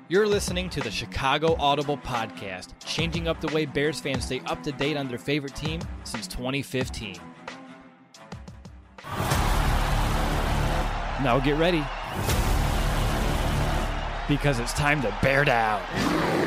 You're listening to the Chicago Audible Podcast, changing up the way Bears fans stay up to date on their favorite team since 2015. Now get ready, because it's time to bear down.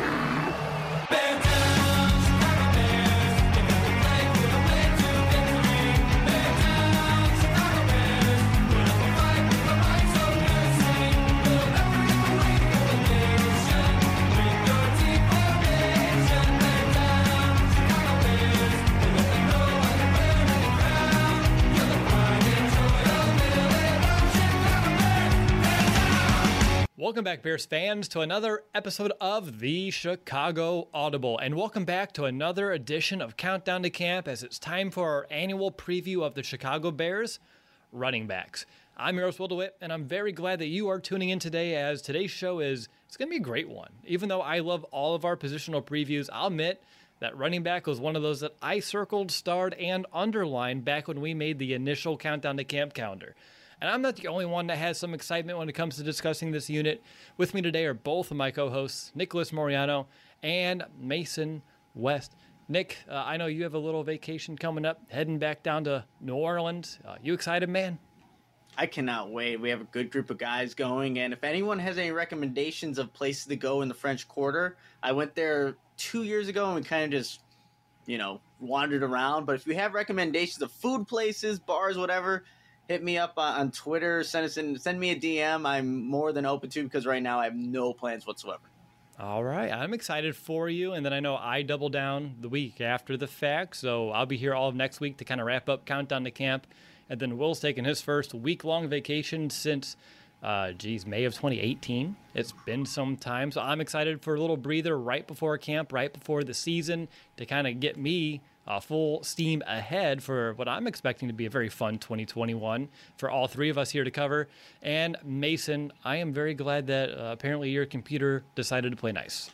Welcome back, Bears fans, to another episode of the Chicago Audible. And welcome back to another edition of Countdown to Camp, as it's time for our annual preview of the Chicago Bears running backs. I'm Eros Wildewit, and I'm very glad that you are tuning in today, as today's show it's going to be a great one. Even though I love all of our positional previews, I'll admit that running back was one of those that I circled, starred, and underlined back when we made the initial Countdown to Camp calendar. And I'm not the only one that has some excitement when it comes to discussing this unit. With me today are both of my co-hosts, Nicholas Moriano and Mason West. Nick, I know you have a little vacation coming up, heading back down to New Orleans. You excited, man? I cannot wait. We have a good group of guys going, and if anyone has any recommendations of places to go in the French Quarter, I went there 2 years ago and we kind of just, wandered around. But if you have recommendations of food places, bars, whatever, hit me up on Twitter, send me a DM. I'm more than open to, because right now I have no plans whatsoever. All right. I'm excited for you. And then I know I double down the week after the fact, so I'll be here all of next week to kind of wrap up Countdown to Camp. And then Will's taking his first week-long vacation since, May of 2018. It's been some time, so I'm excited for a little breather right before camp, right before the season, to kind of get me full steam ahead for what I'm expecting to be a very fun 2021 for all three of us here to cover. And Mason, I am very glad that apparently your computer decided to play nice.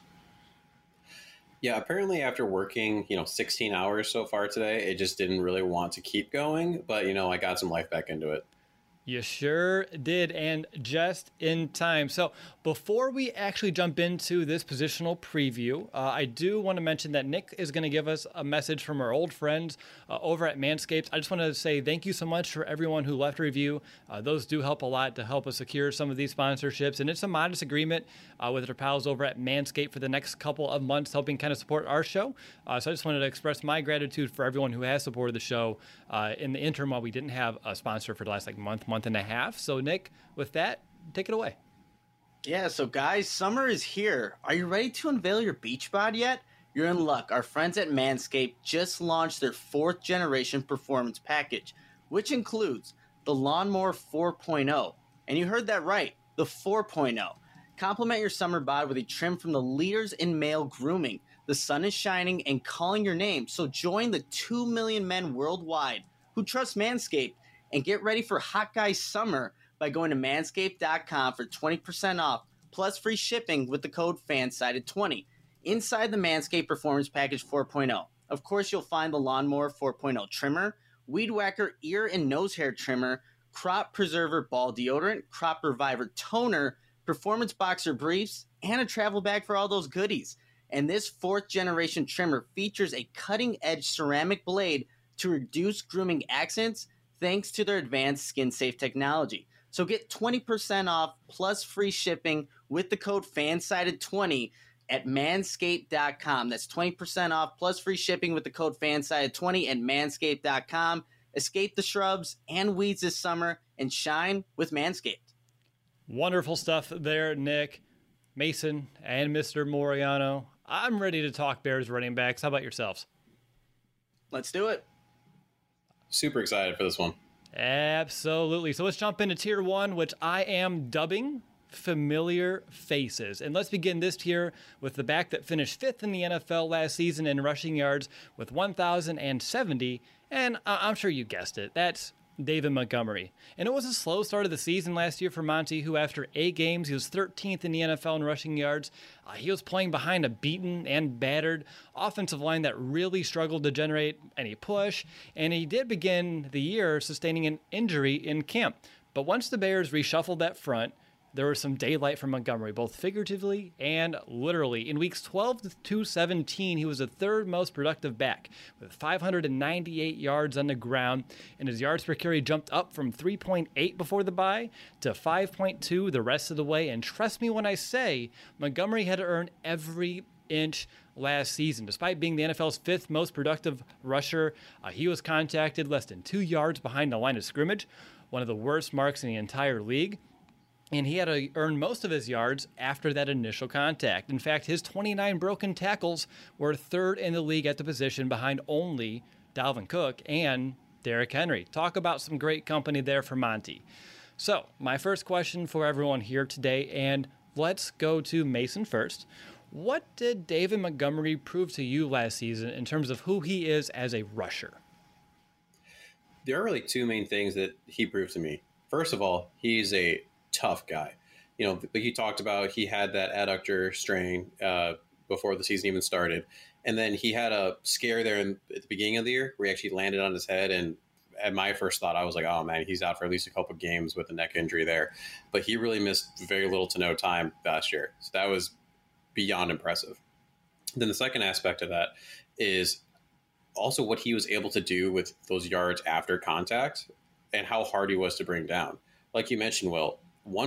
Yeah, apparently after working, 16 hours so far today, it just didn't really want to keep going. But, I got some life back into it. You sure did, and just in time. So before we actually jump into this positional preview, I do want to mention that Nick is going to give us a message from our old friends over at Manscaped. I just want to say thank you so much for everyone who left a review. Those do help a lot to help us secure some of these sponsorships, and it's a modest agreement with our pals over at Manscaped for the next couple of months, helping kind of support our show. So I just wanted to express my gratitude for everyone who has supported the show in the interim while we didn't have a sponsor for the last month and a half. So Nick, with that, take it away. Yeah, so guys, summer is here. Are you ready to unveil your beach bod yet? You're in luck. Our friends at Manscaped just launched their 4th generation performance package, which includes the Lawnmower 4.0. And you heard that right, the 4.0. Complement your summer bod with a trim from the leaders in male grooming. The sun is shining and calling your name, so join the 2 million men worldwide who trust Manscaped and get ready for Hot Guy Summer by going to manscaped.com for 20% off plus free shipping with the code FANSIDED20 inside the Manscaped Performance Package 4.0. Of course, you'll find the Lawnmower 4.0 trimmer, Weed Whacker ear and nose hair trimmer, Crop Preserver ball deodorant, Crop Reviver toner, Performance Boxer briefs, and a travel bag for all those goodies. And this 4th generation trimmer features a cutting-edge ceramic blade to reduce grooming accidents thanks to their advanced skin-safe technology. So get 20% off plus free shipping with the code FANSIDED20 at manscaped.com. That's 20% off plus free shipping with the code FANSIDED20 at manscaped.com. Escape the shrubs and weeds this summer and shine with Manscaped. Wonderful stuff there, Nick, Mason, and Mr. Moriano. I'm ready to talk Bears running backs. How about yourselves? Let's do it. Super excited for this one. Absolutely. So let's jump into tier 1, which I am dubbing Familiar Faces. And let's begin this tier with the back that finished 5th in the NFL last season in rushing yards with 1,070. And I'm sure you guessed it. That's David Montgomery. And it was a slow start of the season last year for Monty, who after 8 games, he was 13th in the NFL in rushing yards. He was playing behind a beaten and battered offensive line that really struggled to generate any push, and he did begin the year sustaining an injury in camp. But once the Bears reshuffled that front, there was some daylight for Montgomery, both figuratively and literally. In weeks 12 to 17, he was the third most productive back, with 598 yards on the ground, and his yards per carry jumped up from 3.8 before the bye to 5.2 the rest of the way. And trust me when I say, Montgomery had to earn every inch last season. Despite being the NFL's fifth most productive rusher, he was contacted less than 2 yards behind the line of scrimmage, one of the worst marks in the entire league. And he had to earn most of his yards after that initial contact. In fact, his 29 broken tackles were third in the league at the position, behind only Dalvin Cook and Derrick Henry. Talk about some great company there for Monty. So, my first question for everyone here today, and let's go to Mason first. What did David Montgomery prove to you last season in terms of who he is as a rusher? There are really two main things that he proved to me. First of all, he's a tough guy. You know, like you talked about, he had that adductor strain before the season even started. And then he had a scare there at the beginning of the year where he actually landed on his head. And at my first thought, I was like, oh man, he's out for at least a couple of games with a neck injury there. But he really missed very little to no time last year. So that was beyond impressive. Then the second aspect of that is also what he was able to do with those yards after contact and how hard he was to bring down. Like you mentioned, Will,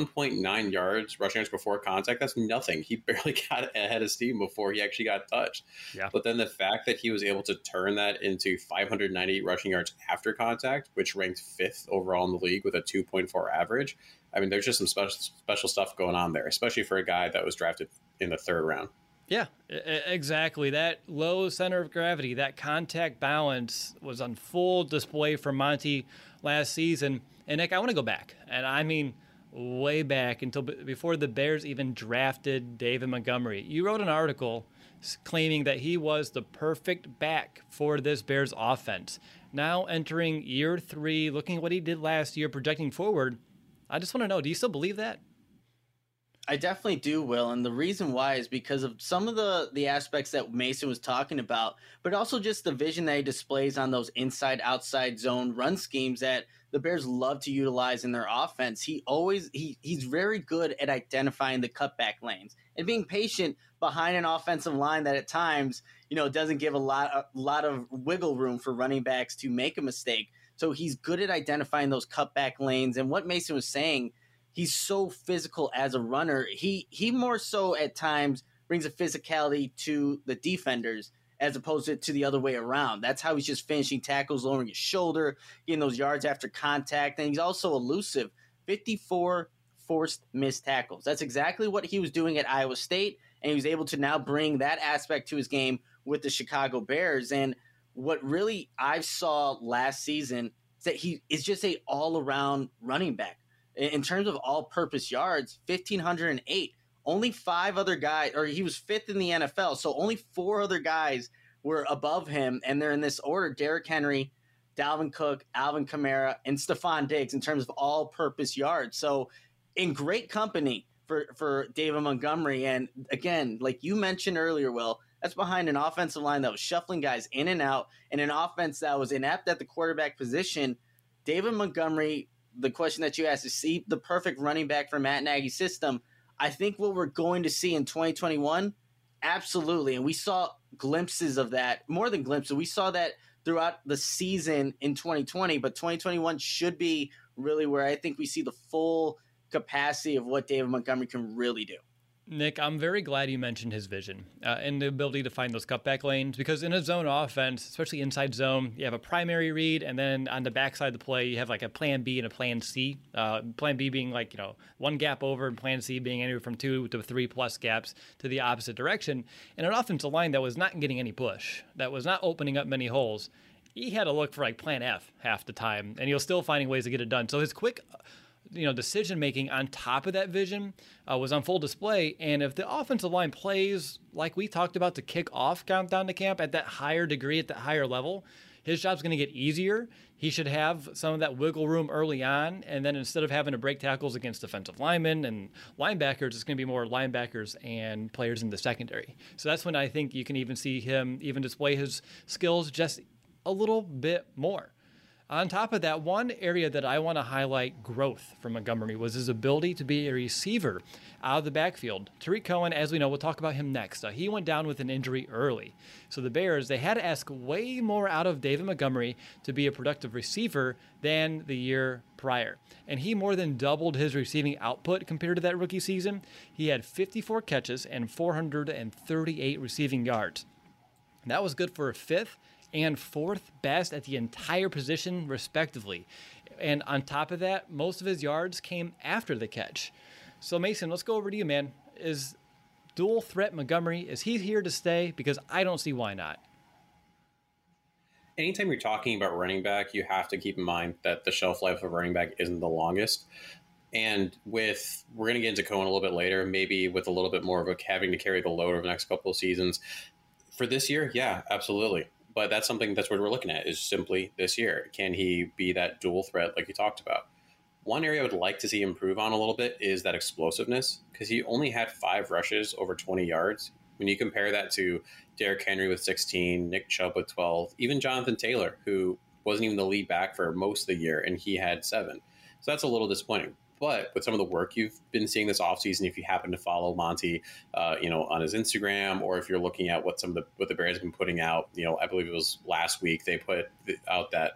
1.9 yards rushing yards before contact, that's nothing. He barely got ahead of steam before he actually got touched. Yeah. But then the fact that he was able to turn that into 598 rushing yards after contact, which ranked fifth overall in the league with a 2.4 average, I mean, there's just some special stuff going on there, especially for a guy that was drafted in the third round. Yeah, exactly. That low center of gravity, that contact balance was on full display for Monty last season. And Nick, I want to go back, and I mean way back until before the Bears even drafted David Montgomery. You wrote an article claiming that he was the perfect back for this Bears offense. Now entering year 3, looking at what he did last year, projecting forward, I just want to know, do you still believe that? I definitely do, Will, and the reason why is because of some of the aspects that Mason was talking about, but also just the vision that he displays on those inside-outside zone run schemes that the Bears love to utilize in their offense. He's very good at identifying the cutback lanes and being patient behind an offensive line that at times, doesn't give a lot of wiggle room for running backs to make a mistake. So he's good at identifying those cutback lanes. And what Mason was saying, he's so physical as a runner. He more so at times brings a physicality to the defenders as opposed to the other way around. That's how he's just finishing tackles, lowering his shoulder, getting those yards after contact. And he's also elusive. 54 forced missed tackles. That's exactly what he was doing at Iowa State. And he was able to now bring that aspect to his game with the Chicago Bears. And what really I saw last season is that he is just a all-around running back. In terms of all-purpose yards, 1,508. Only 5 other guys, or he was 5th in the NFL, so only 4 other guys were above him, and they're in this order: Derrick Henry, Dalvin Cook, Alvin Kamara, and Stephon Diggs in terms of all-purpose yards. So in great company for David Montgomery. And again, like you mentioned earlier, Will, that's behind an offensive line that was shuffling guys in and out, and an offense that was inept at the quarterback position. David Montgomery, the question that you asked, is he the perfect running back for Matt Nagy's system? I think what we're going to see in 2021, absolutely. And we saw glimpses of that, more than glimpses. We saw that throughout the season in 2020, but 2021 should be really where I think we see the full capacity of what David Montgomery can really do. Nick, I'm very glad you mentioned his vision and the ability to find those cutback lanes, because in a zone offense, especially inside zone, you have a primary read, and then on the backside of the play, you have like a plan B and a plan C. Plan B being like, one gap over, and plan C being anywhere from 2 to 3 plus gaps to the opposite direction. And an offensive line that was not getting any push, that was not opening up many holes, he had to look for like plan F half the time, and he was still finding ways to get it done. So his quick decision making on top of that vision was on full display. And if the offensive line plays like we talked about to kick off Countdown to Camp at that higher degree, at that higher level, his job's going to get easier. He should have some of that wiggle room early on, and then instead of having to break tackles against defensive linemen and linebackers, it's going to be more linebackers and players in the secondary. So that's when I think you can even see him even display his skills just a little bit more. On top of that, one area that I want to highlight growth from Montgomery was his ability to be a receiver out of the backfield. Tariq Cohen, as we know, we'll talk about him next. He went down with an injury early. So the Bears, they had to ask way more out of David Montgomery to be a productive receiver than the year prior. And he more than doubled his receiving output compared to that rookie season. He had 54 catches and 438 receiving yards. That was good for a fifth and fourth best at the entire position, respectively. And on top of that, most of his yards came after the catch. So, Mason, let's go over to you, man. Is dual threat Montgomery, is he here to stay? Because I don't see why not. Anytime you're talking about running back, you have to keep in mind that the shelf life of running back isn't the longest. And we're going to get into Cohen a little bit later, maybe with a little bit more of a having to carry the load over the next couple of seasons. For this year, yeah, absolutely. But that's something that's what we're looking at is simply this year. Can he be that dual threat like you talked about? One area I would like to see improve on a little bit is that explosiveness, because he only had 5 rushes over 20 yards. When you compare that to Derrick Henry with 16, Nick Chubb with 12, even Jonathan Taylor, who wasn't even the lead back for most of the year, and he had 7. So that's a little disappointing. But with some of the work you've been seeing this offseason, if you happen to follow Monty, on his Instagram, or if you're looking at what the Bears have been putting out, I believe it was last week they put out that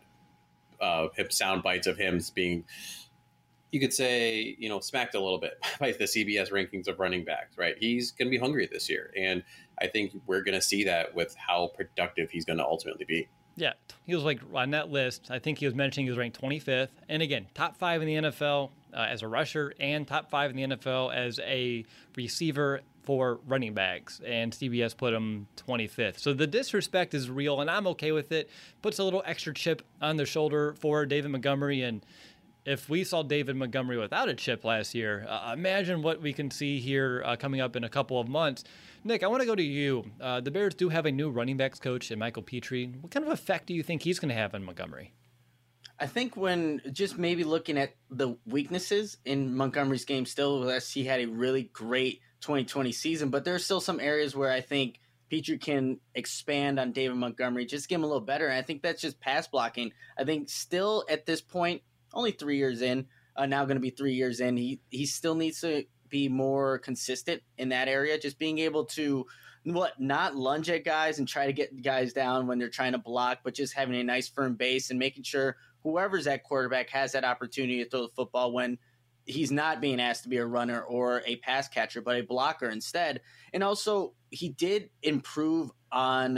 hip sound bites of him being, you could say, smacked a little bit by the CBS rankings of running backs. Right, he's going to be hungry this year, and I think we're going to see that with how productive he's going to ultimately be. Yeah, he was like on that list. I think he was mentioning he was ranked 25th. And again, top 5 in the NFL as a rusher and top 5 in the NFL as a receiver for running backs. And CBS put him 25th. So the disrespect is real, and I'm okay with it. Puts a little extra chip on the shoulder for David Montgomery. And if we saw David Montgomery without a chip last year, imagine what we can see here coming up in a couple of months. Nick, I want to go to you. The Bears do have a new running backs coach in Michael Petrie. What kind of effect do you think he's going to have on Montgomery? I think when just maybe looking at the weaknesses in Montgomery's game, still, yes, he had a really great 2020 season, but there are still some areas where I think Petrie can expand on David Montgomery, just get him a little better. And I think that's just pass blocking. I think still at this point, only 3 years in, now going to be 3 years in, he still needs to be more consistent in that area, just being able to not lunge at guys and try to get guys down when they're trying to block, but just having a nice firm base and making sure whoever's at quarterback has that opportunity to throw the football when he's not being asked to be a runner or a pass catcher, but a blocker instead. And also he did improve on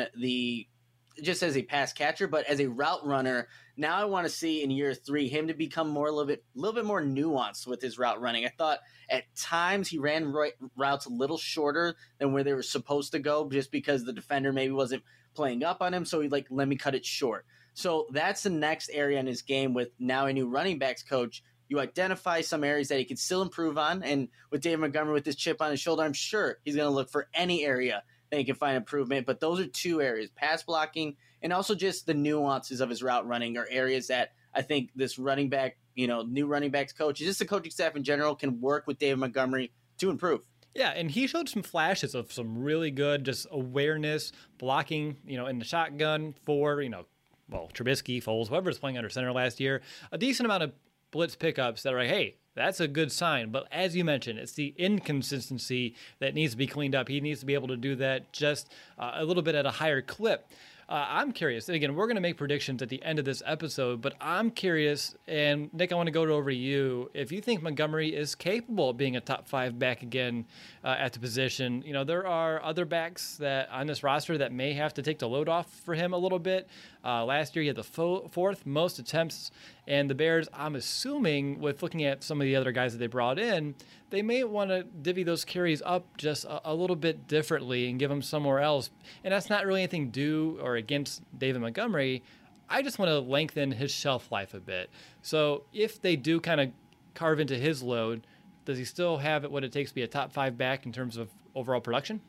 just as a pass catcher, but as a route runner. Now I want to see in year 3 him to become a little bit more nuanced with his route running. I thought at times he ran routes a little shorter than where they were supposed to go, just because the defender maybe wasn't playing up on him. So he let me cut it short. So that's the next area in his game with now a new running backs coach. You identify some areas that he could still improve on. And with David Montgomery with this chip on his shoulder, I'm sure he's going to look for any area that he can find improvement. But those are 2 areas, pass blocking and also just the nuances of his route running, are areas that I think this running back, new running backs coach, just the coaching staff in general, can work with David Montgomery to improve. Yeah, and he showed some flashes of some really good just awareness, blocking, in the shotgun for, Trubisky, Foles, whoever's playing under center last year. A decent amount of blitz pickups that are like, hey, that's a good sign. But as you mentioned, it's the inconsistency that needs to be cleaned up. He needs to be able to do that just a little bit at a higher clip. I'm curious. Again, we're going to make predictions at the end of this episode, but I'm curious, and Nick, I want to go over to you. If you think Montgomery is capable of being a top 5 back again at the position, there are other backs that on this roster that may have to take the load off for him a little bit. Last year, he had the 4th most attempts, and the Bears, I'm assuming, with looking at some of the other guys that they brought in, they may want to divvy those carries up just a little bit differently and give them somewhere else. And that's not really anything due or against David Montgomery. I just want to lengthen his shelf life a bit. So if they do kind of carve into his load, does he still have what it takes to be a top 5 back in terms of overall production?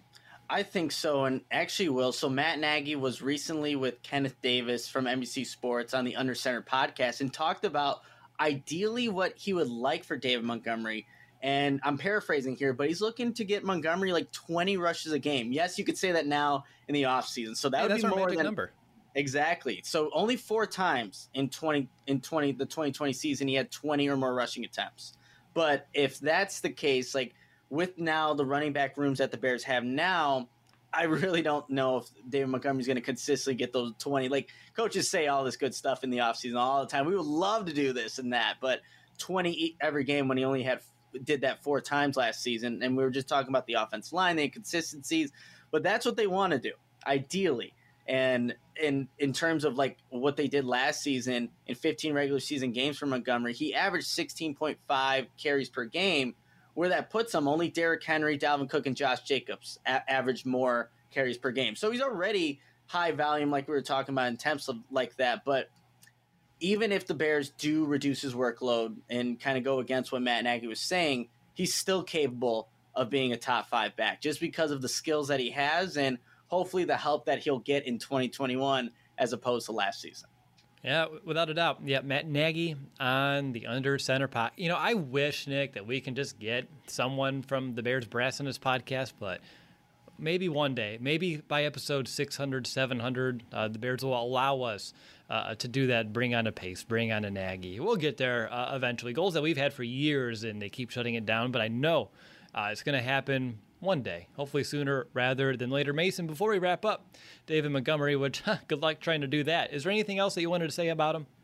I think so, and actually will. So Matt Nagy was recently with Kenneth Davis from NBC Sports on the Under Center podcast and talked about ideally what he would like for David Montgomery. And I'm paraphrasing here, but he's looking to get Montgomery like 20 rushes a game. Yes, you could say that now in the offseason. So that would be more than number. Exactly. So only 4 times in the 2020 season he had 20 or more rushing attempts. But if that's the case, like with now the running back rooms that the Bears have now, I really don't know if David Montgomery's going to consistently get those 20. Like coaches say all this good stuff in the offseason all the time. We would love to do this and that, but 20 every game when he only did that 4 times last season. And we were just talking about the offensive line, the inconsistencies, but that's what they want to do, ideally. And in terms of like what they did last season in 15 regular season games for Montgomery, he averaged 16.5 carries per game. Where that puts him, only Derrick Henry, Dalvin Cook, and Josh Jacobs average more carries per game. So he's already high volume, like we were talking about, in attempts like that. But even if the Bears do reduce his workload and kind of go against what Matt Nagy was saying, he's still capable of being a top 5 back just because of the skills that he has and hopefully the help that he'll get in 2021 as opposed to last season. Yeah, without a doubt. Yeah, Matt Nagy on the under center pot. You know, I wish, Nick, that we can just get someone from the Bears brass on this podcast, but maybe one day, maybe by episode 600, 700, the Bears will allow us to do that, bring on a Pace, bring on a Nagy. We'll get there eventually. Goals that we've had for years, and they keep shutting it down, but I know it's going to happen one day, hopefully sooner rather than later. Mason, before we wrap up, David Montgomery, which good luck trying to do that. Is there anything else that you wanted to say about him?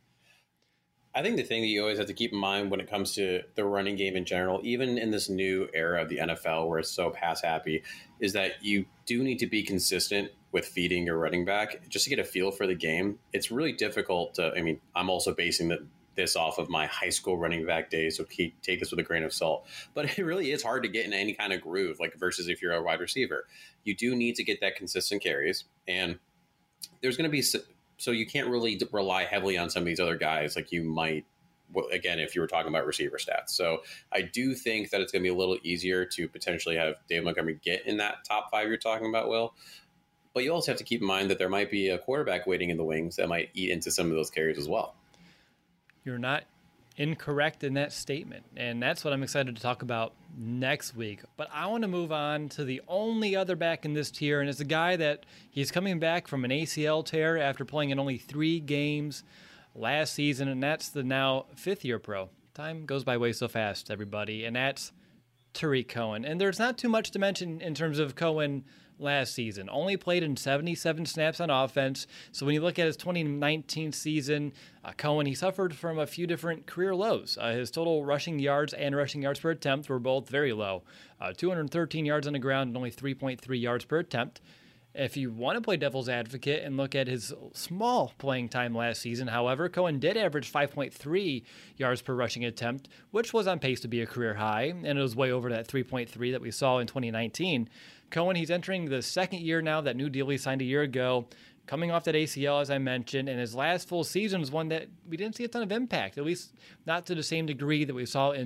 I think the thing that you always have to keep in mind when it comes to the running game in general, even in this new era of the NFL where it's so pass happy, is that you do need to be consistent with feeding your running back just to get a feel for the game. It's really difficult to, I'm also basing this off of my high school running back days, so take this with a grain of salt. But it really is hard to get in any kind of groove, like versus if you're a wide receiver. You do need to get that consistent carries, and there's going to be so you can't really rely heavily on some of these other guys like you might, again, if you were talking about receiver stats. So I do think that it's going to be a little easier to potentially have David Montgomery get in that top 5 you're talking about, Will. But you also have to keep in mind that there might be a quarterback waiting in the wings that might eat into some of those carries as well. You're not incorrect in that statement, and that's what I'm excited to talk about next week. But I want to move on to the only other back in this tier, and it's a guy that he's coming back from an ACL tear after playing in only 3 games last season, and that's the now 5th-year pro. Time goes by way so fast, everybody, and that's Tarik Cohen. And there's not too much to mention in terms of Cohen last season. Only played in 77 snaps on offense. So when you look at his 2019 season, Cohen, he suffered from a few different career lows. His total rushing yards and rushing yards per attempt were both very low. 213 yards on the ground and only 3.3 yards per attempt. If you want to play devil's advocate and look at his small playing time last season, however, Cohen did average 5.3 yards per rushing attempt, which was on pace to be a career high, and it was way over that 3.3 that we saw in 2019. Cohen, he's entering the 2nd year now, that new deal he signed a year ago, coming off that ACL, as I mentioned, and his last full season was one that we didn't see a ton of impact, at least not to the same degree that we saw in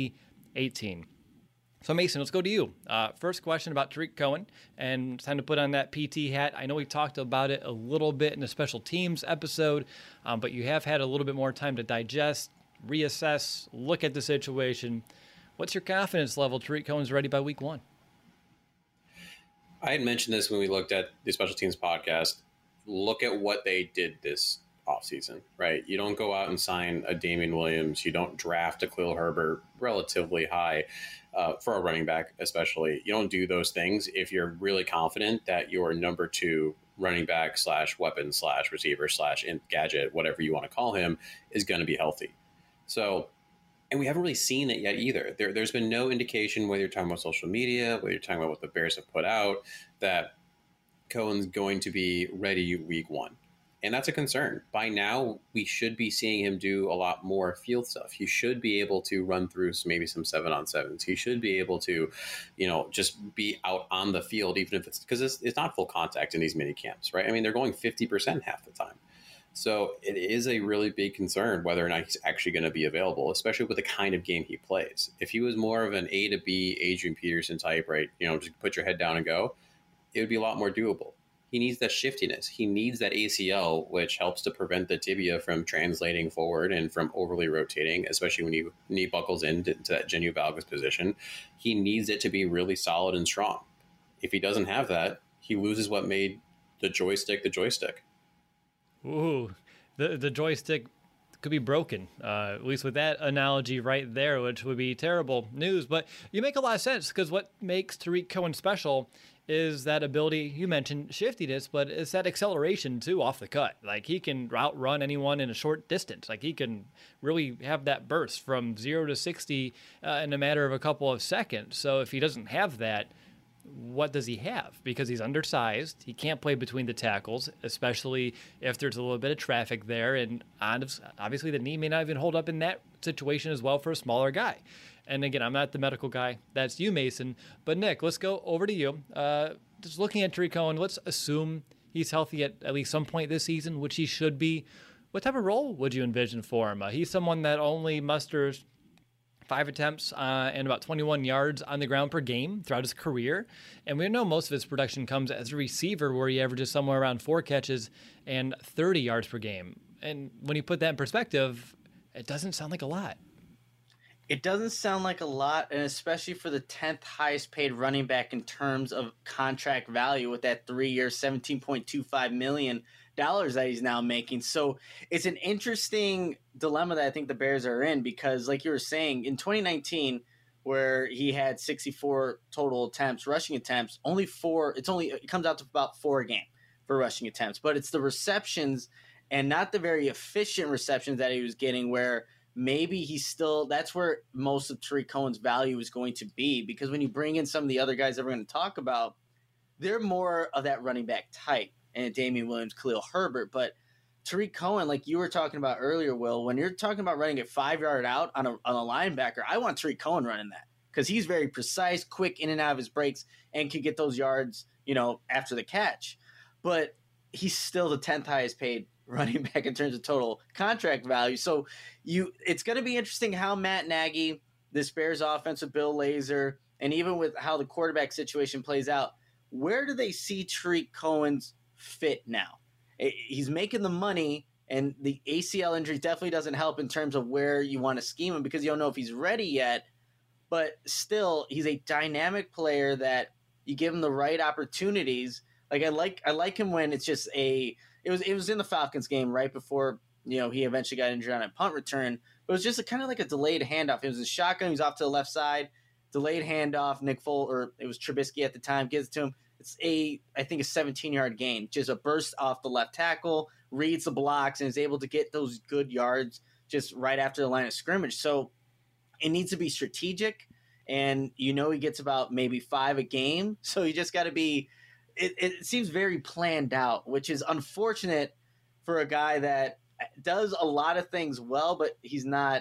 2018. So, Mason, let's go to you. First question about Tarik Cohen, and it's time to put on that PT hat. I know we talked about it a little bit in the special teams episode, but you have had a little bit more time to digest, reassess, look at the situation. What's your confidence level Tarik Cohen's ready by week 1? I had mentioned this when we looked at the special teams podcast. Look at what they did this offseason, right? You don't go out and sign a Damian Williams. You don't draft a Khalil Herbert relatively high for a running back, especially. You don't do those things if you're really confident that your number 2 running back / weapon / receiver / gadget, whatever you want to call him, is going to be healthy. So, and we haven't really seen it yet either. There's been no indication, whether you're talking about social media, whether you're talking about what the Bears have put out, that Cohen's going to be ready week 1. And that's a concern. By now, we should be seeing him do a lot more field stuff. He should be able to run through maybe some 7-on-7s. He should be able to, just be out on the field, even if it's because it's not full contact in these mini camps, right? I mean, they're going 50% half the time. So it is a really big concern whether or not he's actually going to be available, especially with the kind of game he plays. If he was more of an A to B Adrian Peterson type, right, just put your head down and go, it would be a lot more doable. He needs that shiftiness. He needs that ACL, which helps to prevent the tibia from translating forward and from overly rotating, especially when you knee buckles into that genu valgus position. He needs it to be really solid and strong. If he doesn't have that, he loses what made the joystick the joystick. Ooh, the joystick could be broken, at least with that analogy right there, which would be terrible news. But you make a lot of sense, because what makes Tarik Cohen special is that ability. You mentioned shiftiness, but it's that acceleration too off the cut. Like, he can outrun anyone in a short distance. Like, he can really have that burst from 0 to 60 in a matter of a couple of seconds. So if he doesn't have that, what does he have? Because he's undersized. He can't play between the tackles, especially if there's a little bit of traffic there. And obviously the knee may not even hold up in that situation as well for a smaller guy. And again, I'm not the medical guy. That's you, Mason. But Nick, let's go over to you. Just looking at Tarik Cohen, let's assume he's healthy at least some point this season, which he should be. What type of role would you envision for him? He's someone that only musters 5 attempts and about 21 yards on the ground per game throughout his career. And we know most of his production comes as a receiver, where he averages somewhere around 4 catches and 30 yards per game. And when you put that in perspective, it doesn't sound like a lot. It doesn't sound like a lot, and especially for the 10th highest paid running back in terms of contract value, with that 3-year, $17.25 million that he's now making. So it's an interesting dilemma that I think the Bears are in, because like you were saying, in 2019, where he had 64 total attempts, rushing attempts, it comes out to about 4 a game for rushing attempts, but it's the receptions and not the very efficient receptions that he was getting, where maybe that's where most of Tarik Cohen's value is going to be, because when you bring in some of the other guys that we're going to talk about, they're more of that running back type, and Damian Williams, Khalil Herbert. But Tarik Cohen, like you were talking about earlier, Will, when you're talking about running it 5-yard out on a linebacker, I want Tarik Cohen running that, because he's very precise, quick in and out of his breaks, and can get those yards, after the catch. But he's still the 10th highest paid running back in terms of total contract value. So it's going to be interesting how Matt Nagy, this Bears offense with Bill Lazor, and even with how the quarterback situation plays out, where do they see Tarik Cohen's fit now? He's making the money, and the ACL injury definitely doesn't help in terms of where you want to scheme him, because you don't know if he's ready yet. But still, he's a dynamic player that you give him the right opportunities. Like I like him when it's just it was in the Falcons game right before he eventually got injured on a punt return. But it was just kind of like a delayed handoff. It was a shotgun. He was off to the left side, delayed handoff. It was Trubisky at the time, gives it to him. It's I think a 17-yard gain, just a burst off the left tackle, reads the blocks, and is able to get those good yards just right after the line of scrimmage. So it needs to be strategic, and he gets about maybe 5 a game. So you just got to be. It seems very planned out, which is unfortunate for a guy that does a lot of things well, but he's not,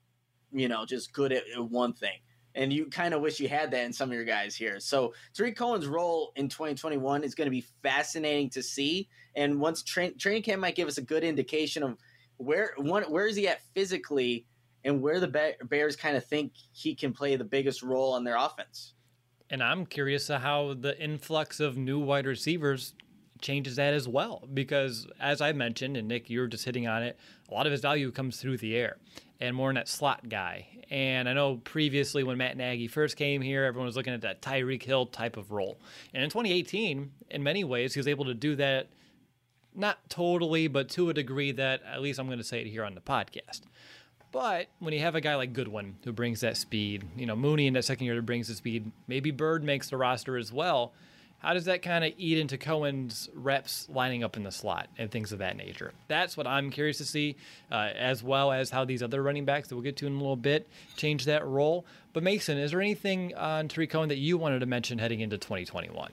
just good at one thing. And you kind of wish you had that in some of your guys here. So Tarik Cohen's role in 2021 is going to be fascinating to see. And once training camp might give us a good indication of where is he at physically, and where the Bears kind of think he can play the biggest role in their offense. And I'm curious how the influx of new wide receivers changes that as well. Because as I mentioned, and Nick, you're just hitting on it, a lot of his value comes through the air and more in that slot guy. And I know previously when Matt Nagy first came here, everyone was looking at that Tyreek Hill type of role. And in 2018, in many ways, he was able to do that, not totally, but to a degree that, at least I'm going to say it here on the podcast. But when you have a guy like Goodwin who brings that speed, Mooney in that second year that brings the speed, maybe Bird makes the roster as well, how does that kind of eat into Cohen's reps lining up in the slot and things of that nature? That's what I'm curious to see, as well as how these other running backs that we'll get to in a little bit change that role. But Mason, is there anything on Tarik Cohen that you wanted to mention heading into 2021?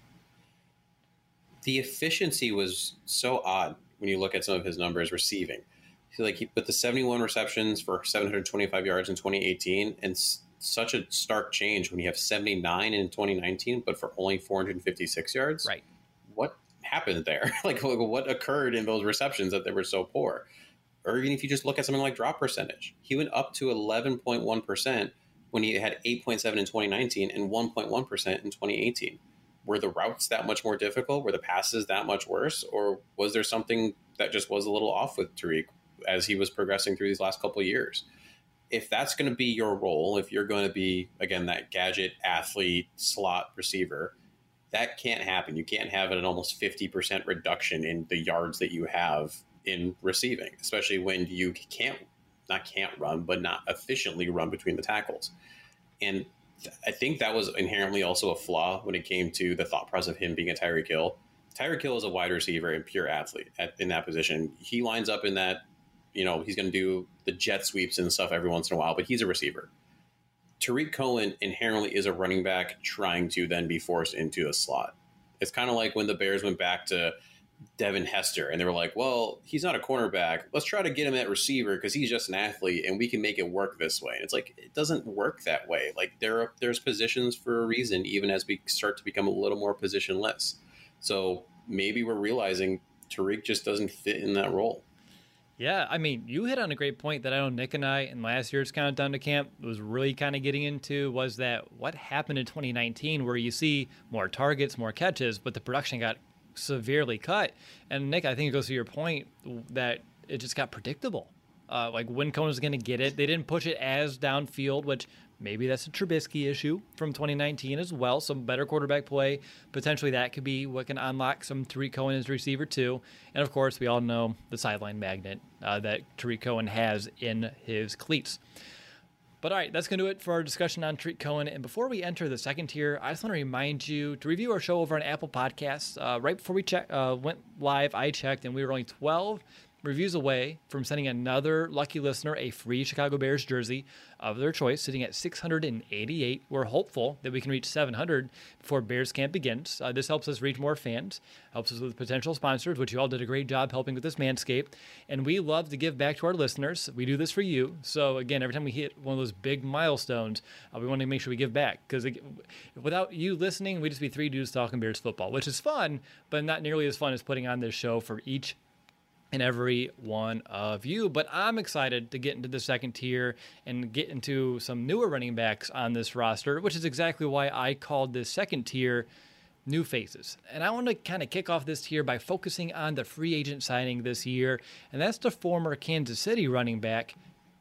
The efficiency was so odd when you look at some of his numbers receiving. He put the 71 receptions for 725 yards in 2018, and such a stark change when you have 79 in 2019, but for only 456 yards. Right. What happened there? What occurred in those receptions that they were so poor? Or even if you just look at something like drop percentage, he went up to 11.1% when he had 8.7 in 2019 and 1.1% in 2018. Were the routes that much more difficult? Were the passes that much worse? Or was there something that just was a little off with Tarik as he was progressing through these last couple of years? If that's going to be your role, if you're going to be, again, that gadget athlete slot receiver, That can't happen. You can't have an almost 50% reduction in the yards that you have in receiving, especially when you not run, but not efficiently run between the tackles. And I think that was inherently also a flaw when it came to the thought process of him being a Tyreek Hill. Tyreek Hill is a wide receiver and pure athlete in that position. He lines up in that, he's going to do the jet sweeps and stuff every once in a while, but he's a receiver. Tarik Cohen inherently is a running back trying to then be forced into a slot. It's kind of like when the Bears went back to Devin Hester and they were like, well, he's not a cornerback. Let's try to get him at receiver because he's just an athlete and we can make it work this way. And it's like, it doesn't work that way. Like there's positions for a reason, even as we start to become a little more positionless. So maybe we're realizing Tarik just doesn't fit in that role. Yeah, I mean, you hit on a great point that I know Nick and I in last year's Countdown to Camp was really kind of getting into, was that what happened in 2019 where you see more targets, more catches, but the production got severely cut. And Nick, I think it goes to your point that it just got predictable. Like when Cohen was going to get it, they didn't push it as downfield, which maybe that's a Trubisky issue from 2019 as well. Some better quarterback play. Potentially that could be what can unlock some Tarik Cohen as receiver too. And of course, we all know the sideline magnet that Tarik Cohen has in his cleats. But all right, that's going to do it for our discussion on Tarik Cohen. And before we enter the second tier, I just want to remind you to review our show over on Apple Podcasts. Right before we went live, I checked, and we were only 12 reviews away from sending another lucky listener a free Chicago Bears jersey of their choice, sitting at 688. We're hopeful that we can reach 700 before Bears camp begins. This helps us reach more fans, helps us with potential sponsors, which you all did a great job helping with this Manscaped. And we love to give back to our listeners. We do this for you. So again, every time we hit one of those big milestones, we want to make sure we give back. Because without you listening, we'd just be three dudes talking Bears football, which is fun, but not nearly as fun as putting on this show for each and every one of you. But I'm excited to get into the second tier and get into some newer running backs on this roster, which is exactly why I called this second tier New Faces. And I want to kind of kick off this tier by focusing on the free agent signing this year, and that's the former Kansas City running back,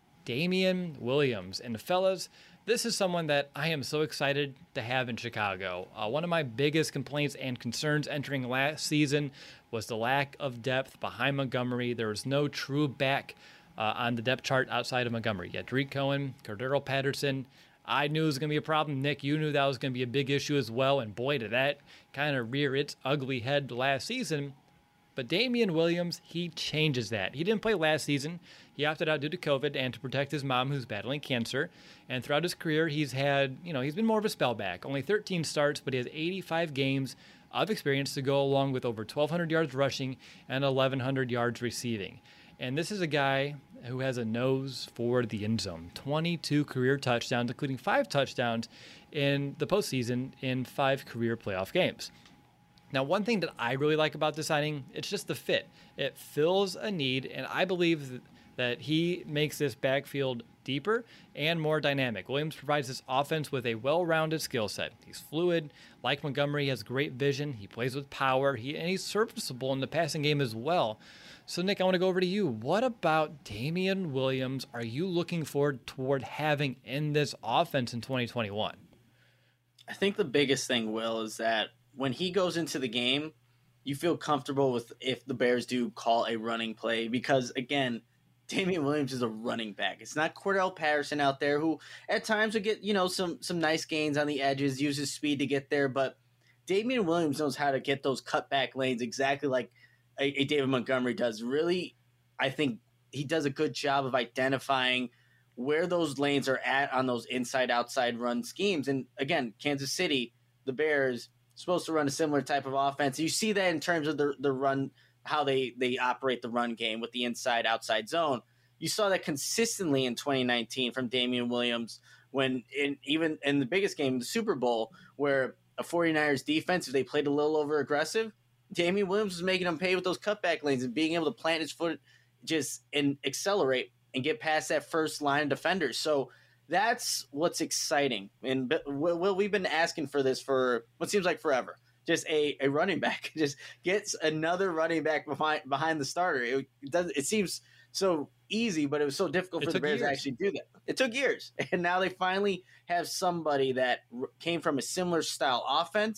Damien Williams. And fellas, this is someone that I am so excited to have in Chicago. One of my biggest complaints and concerns entering last season was the lack of depth behind Montgomery. There was no true back on the depth chart outside of Montgomery. You had Tarik Cohen, Cordero Patterson. I knew it was going to be a problem. Nick, you knew that was going to be a big issue as well. And boy, did that kind of rear its ugly head last season. But Damien Williams, he changes that. He didn't play last season. He opted out due to COVID and to protect his mom who's battling cancer. And throughout his career, he's been more of a spellback. Only 13 starts, but he has 85 games of experience to go along with over 1,200 yards rushing and 1,100 yards receiving. And this is a guy who has a nose for the end zone. 22 career touchdowns, including 5 touchdowns in the postseason in 5 career playoff games. Now, one thing that I really like about this signing, it's just the fit. It fills a need, and I believe that he makes this backfield deeper and more dynamic. Williams provides this offense with a well-rounded skill set. He's fluid. Like Montgomery, he has great vision. He plays with power. And he's serviceable in the passing game as well. So, Nick, I want to go over to you. What about Damien Williams are you looking forward toward having in this offense in 2021? I think the biggest thing, Will, is that when he goes into the game, you feel comfortable with if the Bears do call a running play because, again, Damien Williams is a running back. It's not Cordell Patterson out there who at times will get, some nice gains on the edges, uses speed to get there, but Damien Williams knows how to get those cutback lanes exactly like a David Montgomery does. Really, I think he does a good job of identifying where those lanes are at on those inside-outside run schemes. And again, Kansas City, the Bears, supposed to run a similar type of offense. You see that in terms of the run, how they operate the run game with the inside-outside zone. You saw that consistently in 2019 from Damien Williams even in the biggest game, the Super Bowl, where a 49ers defense, if they played a little over-aggressive, Damien Williams was making them pay with those cutback lanes and being able to plant his foot and accelerate and get past that first line of defenders. So that's what's exciting. And we've been asking for this for what seems like forever. Just a running back. Just gets another running back behind the starter. It seems so easy, but it was so difficult for the Bears to actually do that. It took years. And now they finally have somebody that came from a similar style offense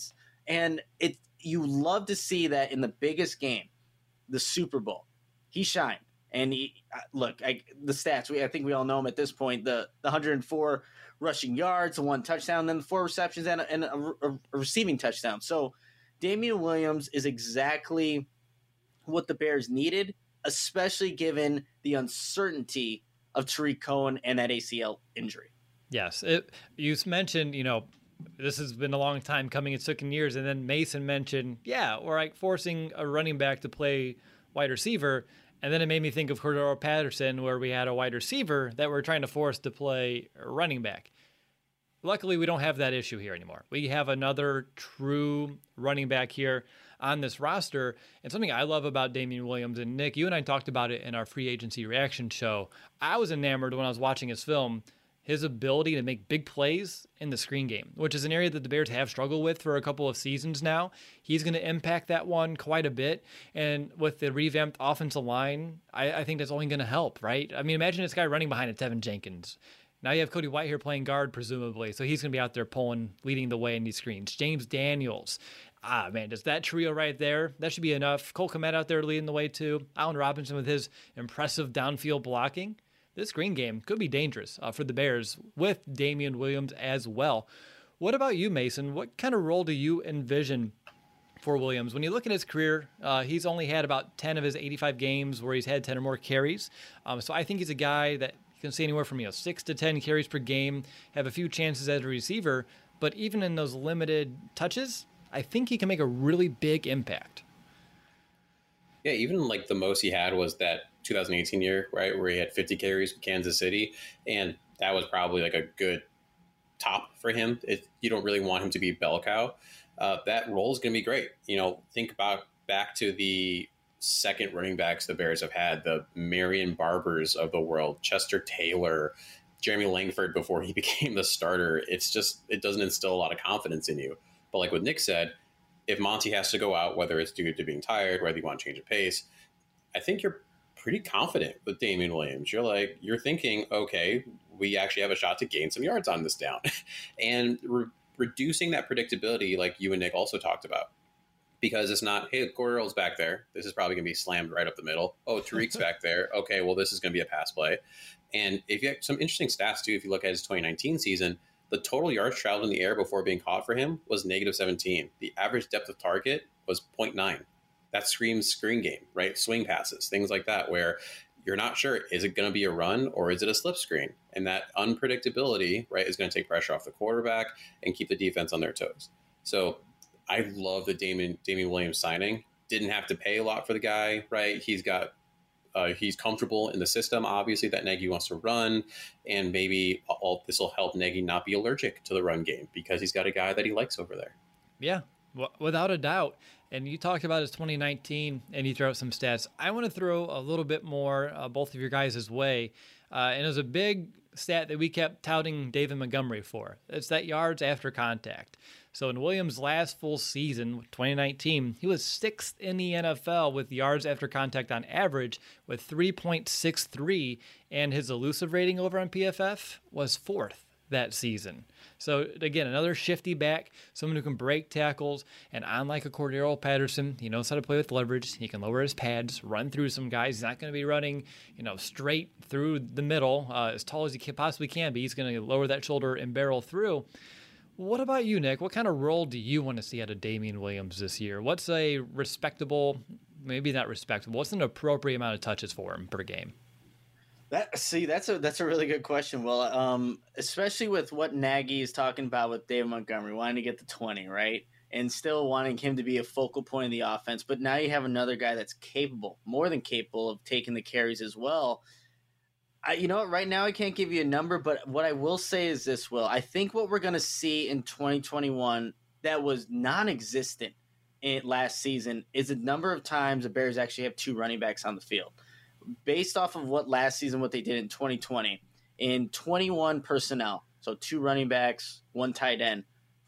And you love to see that in the biggest game, the Super Bowl. He shined. And the stats, I think we all know him at this point, the 104 rushing yards, the 1 touchdown, then the 4 receptions and a receiving touchdown. So Damian Williams is exactly what the Bears needed, especially given the uncertainty of Tariq Cohen and that ACL injury. Yes. You mentioned, this has been a long time coming. It's taken years. And then Mason mentioned, we're like forcing a running back to play wide receiver. And then it made me think of Cordero Patterson, where we had a wide receiver that we're trying to force to play running back. Luckily, we don't have that issue here anymore. We have another true running back here on this roster. And something I love about Damian Williams, and Nick, you and I talked about it in our free agency reaction show. I was enamored when I was watching his film, his ability to make big plays in the screen game, which is an area that the Bears have struggled with for a couple of seasons now. He's going to impact that one quite a bit. And with the revamped offensive line, I think that's only going to help, right? I mean, imagine this guy running behind a Tevin Jenkins. Now you have Cody White here playing guard, presumably. So he's going to be out there leading the way in these screens. James Daniels. Man, does that trio right there, that should be enough. Cole Kmet out there leading the way too. Allen Robinson with his impressive downfield blocking. This screen game could be dangerous for the Bears with Damian Williams as well. What about you, Mason? What kind of role do you envision for Williams? When you look at his career, he's only had about 10 of his 85 games where he's had 10 or more carries. So I think he's a guy that you can see anywhere from 6 to 10 carries per game, have a few chances as a receiver. But even in those limited touches, I think he can make a really big impact. Yeah, even like the most he had was that 2018 year, right, where he had 50 carries with Kansas City, and that was probably like a good top for him. You don't really want him to be bell cow. That role is going to be great. Think about back to the second running backs the Bears have had, the Marion Barbers of the world, Chester Taylor, Jeremy Langford before he became the starter. It doesn't instill a lot of confidence in you. But like what Nick said, if Monty has to go out, whether it's due to being tired, whether you want to change of pace, I think you're pretty confident with Damian Williams. You're thinking, okay, we actually have a shot to gain some yards on this down. And reducing that predictability, like you and Nick also talked about, because it's not, hey, Cordero's back there. This is probably going to be slammed right up the middle. Oh, Tariq's back there. Okay, well, this is going to be a pass play. And if you have some interesting stats, too, if you look at his 2019 season, the total yards traveled in the air before being caught for him was -17. The average depth of target was 0.9. That screams screen game, right? Swing passes, things like that, where you're not sure, is it going to be a run or is it a slip screen? And that unpredictability, right, is going to take pressure off the quarterback and keep the defense on their toes. So I love the Damian Williams signing. Didn't have to pay a lot for the guy, right? He's comfortable in the system, obviously, that Nagy wants to run, and maybe this will help Nagy not be allergic to the run game because he's got a guy that he likes over there. Yeah, without a doubt. And you talked about his 2019, and you throw out some stats. I want to throw a little bit more both of your guys' way. And it was a big stat that we kept touting David Montgomery for. It's that yards after contact. So in Williams' last full season, 2019, he was 6th in the NFL with yards after contact on average with 3.63, and his elusive rating over on PFF was 4th that season. So again, another shifty back, someone who can break tackles, and unlike a Cordero Patterson, he knows how to play with leverage. He can lower his pads, run through some guys. He's not going to be running, straight through the middle as tall as he possibly can be. He's going to lower that shoulder and barrel through. What about you, Nick? What kind of role do you want to see out of Damian Williams this year? What's a respectable, maybe not respectable, what's an appropriate amount of touches for him per game? That's a really good question. Well, especially with what Nagy is talking about with David Montgomery, wanting to get to 20, right? And still wanting him to be a focal point of the offense. But now you have another guy that's capable, more than capable, of taking the carries as well. You know what? Right now I can't give you a number, but what I will say is this, Will. I think what we're going to see in 2021 that was non-existent last season is the number of times the Bears actually have 2 running backs on the field. Based off of what they did in 2020, in 21 personnel, so 2 running backs, 1 tight end,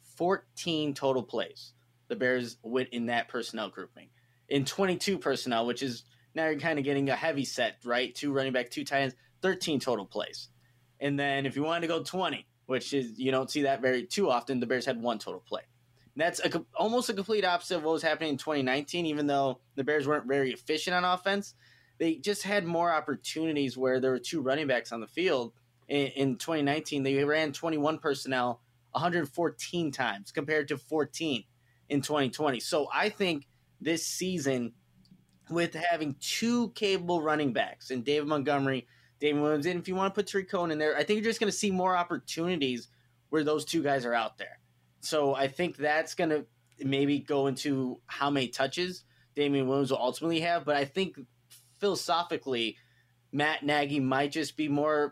14 total plays, the Bears went in that personnel grouping. In 22 personnel, which is now you're kind of getting a heavy set, right? 2 running back, 2 tight ends, 13 total plays. And then if you wanted to go 20, which is you don't see that very too often, the Bears had 1 total play. And that's almost a complete opposite of what was happening in 2019, even though the Bears weren't very efficient on offense. They just had more opportunities where there were two running backs on the field. In 2019, they ran 21 personnel 114 times compared to 14 in 2020. So I think this season, with having two capable running backs and David Montgomery, David Williams, and if you want to put Tariq Cohen in there, I think you're just going to see more opportunities where those two guys are out there. So I think that's going to maybe go into how many touches Damian Williams will ultimately have. But I think philosophically, Matt Nagy might just be more,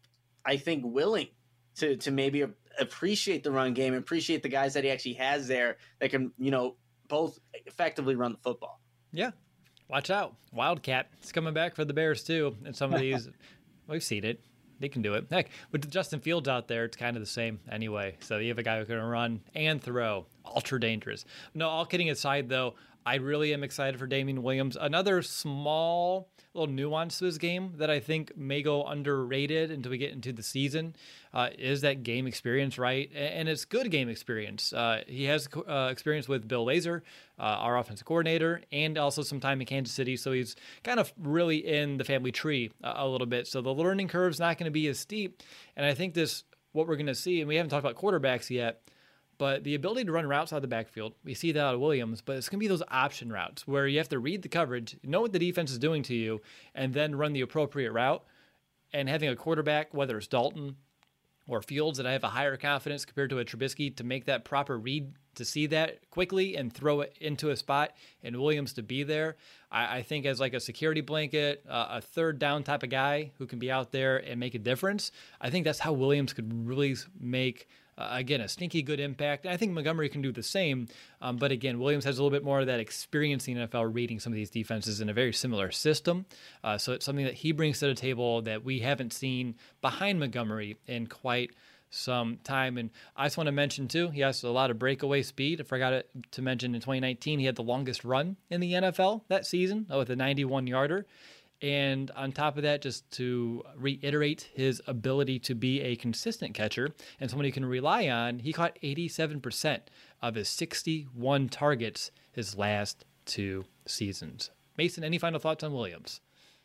I think, willing to maybe appreciate the run game, appreciate the guys that he actually has there that can, both effectively run the football. Yeah. Watch out. Wildcat. It's coming back for the Bears, too. And some of these, we've seen it. They can do it. Heck, with Justin Fields out there, it's kind of the same anyway. So you have a guy who can run and throw. Ultra dangerous. No, all kidding aside, though, I really am excited for Damian Williams. Another small little nuance to his game that I think may go underrated until we get into the season is that game experience, right? And it's good game experience. He has experience with Bill Lazor, our offensive coordinator, and also some time in Kansas City. So he's kind of really in the family tree a little bit. So the learning curve's not going to be as steep. And I think what we're going to see, and we haven't talked about quarterbacks yet, but the ability to run routes out of the backfield, we see that out of Williams, but it's going to be those option routes where you have to read the coverage, know what the defense is doing to you, and then run the appropriate route. And having a quarterback, whether it's Dalton or Fields, that I have a higher confidence compared to a Trubisky to make that proper read, to see that quickly and throw it into a spot, and Williams to be there, I think as like a security blanket, a third down type of guy who can be out there and make a difference. I think that's how Williams could really make again, a sneaky good impact. And I think Montgomery can do the same. But again, Williams has a little bit more of that experience in the NFL reading some of these defenses in a very similar system. So it's something that he brings to the table that we haven't seen behind Montgomery in quite some time. And I just want to mention, too, he has a lot of breakaway speed. I forgot to mention in 2019, he had the longest run in the NFL that season with a 91-yarder. And on top of that, just to reiterate his ability to be a consistent catcher and someone you can rely on, he caught 87% of his 61 targets his last two seasons. Mason, any final thoughts on Williams?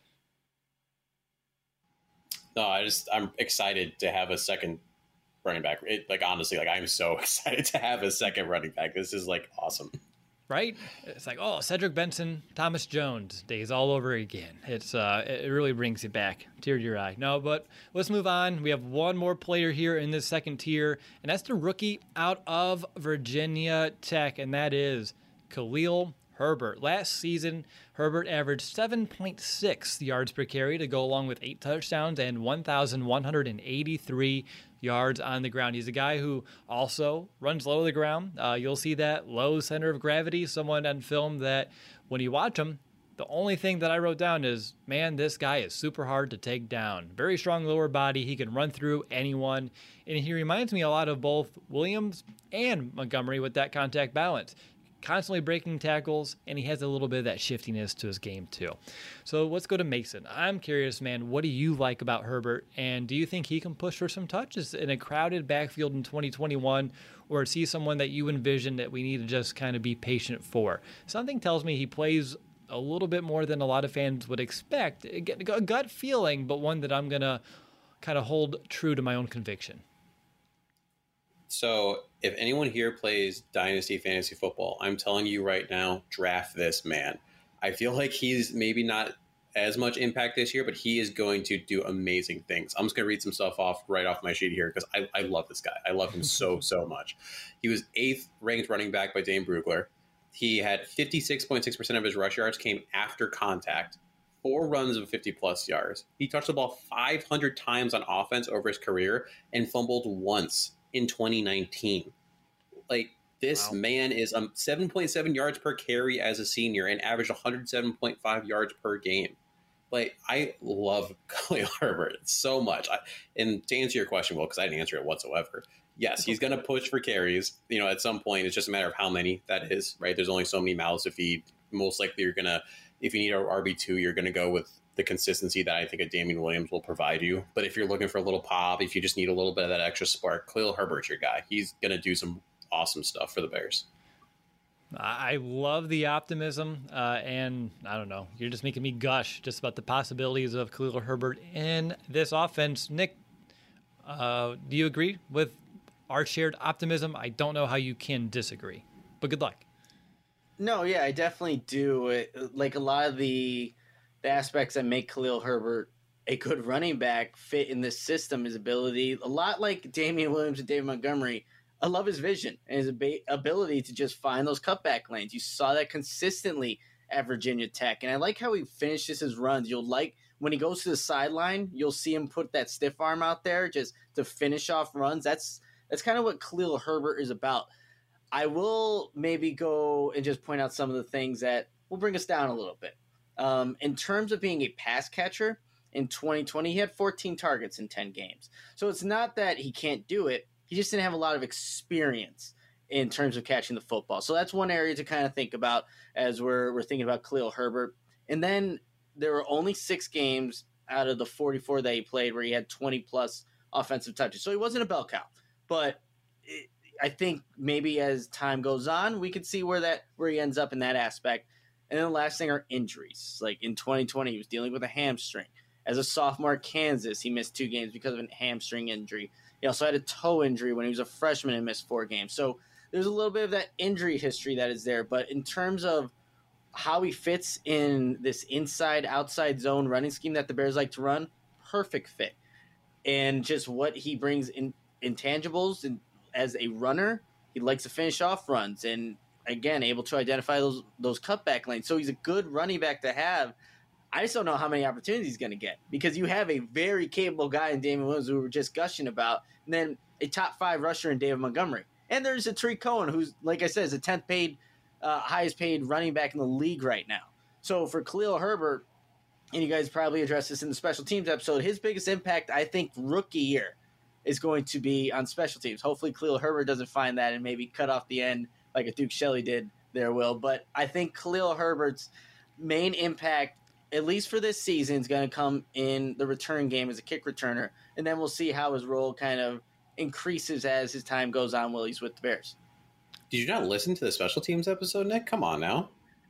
No, I'm excited to have a second running back. Honestly, I'm so excited to have a second running back. This is awesome. Right? It's like, Cedric Benson, Thomas Jones days all over again. It really brings you back, tear to your eye. No, but let's move on. We have one more player here in this second tier, and that's the rookie out of Virginia Tech, and that is Khalil Herbert. Last season, Herbert averaged 7.6 yards per carry to go along with 8 touchdowns and 1,183 yards on the ground. He's a guy who also runs low to the ground. You'll see that low center of gravity, someone on film that when you watch him, the only thing that I wrote down is, man, this guy is super hard to take down. Very strong lower body. He can run through anyone. And he reminds me a lot of both Williams and Montgomery with that contact balance. Constantly breaking tackles, and he has a little bit of that shiftiness to his game too. So let's go to Mason. I'm curious, man, what do you like about Herbert, and do you think he can push for some touches in a crowded backfield in 2021, or is he someone that you envision that we need to just kind of be patient for? Something tells me he plays a little bit more than a lot of fans would expect. A gut feeling, but one that I'm going to kind of hold true to my own conviction. So if anyone here plays Dynasty Fantasy Football, I'm telling you right now, draft this man. I feel like he's maybe not as much impact this year, but he is going to do amazing things. I'm just going to read some stuff right off my sheet here because I love this guy. I love him so much. He was 8th ranked running back by Dane Brugler. He had 56.6% of his rush yards came after contact, 4 runs of 50-plus yards. He touched the ball 500 times on offense over his career and fumbled once in 2019. This man is 7.7 yards per carry as a senior and averaged 107.5 yards per game. I love Khalil Herbert so much. And to answer your question, because I didn't answer it whatsoever, yes, he's going to push for carries. At some point, it's just a matter of how many that is, right? There's only so many mouths to feed. Most likely you're going to, if you need an RB2, you're going to go with the consistency that I think a Damian Williams will provide you. But if you're looking for a little pop, if you just need a little bit of that extra spark, Khalil Herbert's your guy. He's going to do some awesome stuff for the Bears. I love the optimism, and I don't know, you're just making me gush just about the possibilities of Khalil Herbert in this offense. Nick, do you agree with our shared optimism? I don't know how you can disagree, but good luck. No, yeah, I definitely do. Like a lot of the aspects that make Khalil Herbert a good running back fit in this system, his ability, a lot like Damian Williams and David Montgomery. I love his vision and his ability to just find those cutback lanes. You saw that consistently at Virginia Tech, and I like how he finishes his runs. You'll like when he goes to the sideline, you'll see him put that stiff arm out there just to finish off runs. That's kind of what Khalil Herbert is about. I will maybe go and just point out some of the things that will bring us down a little bit. In terms of being a pass catcher, in 2020, he had 14 targets in 10 games. So it's not that he can't do it. He just didn't have a lot of experience in terms of catching the football. So that's one area to kind of think about as we're thinking about Khalil Herbert. And then there were only 6 games out of the 44 that he played where he had 20-plus offensive touches. So he wasn't a bell cow. But I think maybe as time goes on, we could see where he ends up in that aspect. And then the last thing are injuries. Like in 2020, he was dealing with a hamstring. As a sophomore at Kansas, he missed 2 games because of a hamstring injury. He also had a toe injury when he was a freshman and missed 4 games. So there's a little bit of that injury history that is there. But in terms of how he fits in this inside-outside zone running scheme that the Bears like to run, perfect fit. And just what he brings in intangibles and as a runner, he likes to finish off runs and, again, able to identify those cutback lanes. So he's a good running back to have. I just don't know how many opportunities he's going to get because you have a very capable guy in Damian Williams who we were just gushing about, and then a top 5 rusher in David Montgomery. And there's a Tariq Cohen who's, like I said, is the 10th highest paid running back in the league right now. So for Khalil Herbert, and you guys probably addressed this in the special teams episode, his biggest impact, I think, rookie year is going to be on special teams. Hopefully Khalil Herbert doesn't find that and maybe cut off the end like a Duke Shelley did there, Will. But I think Khalil Herbert's main impact, at least for this season, is going to come in the return game as a kick returner. And then we'll see how his role kind of increases as his time goes on while he's with the Bears. Did you not listen to the special teams episode, Nick? Come on now.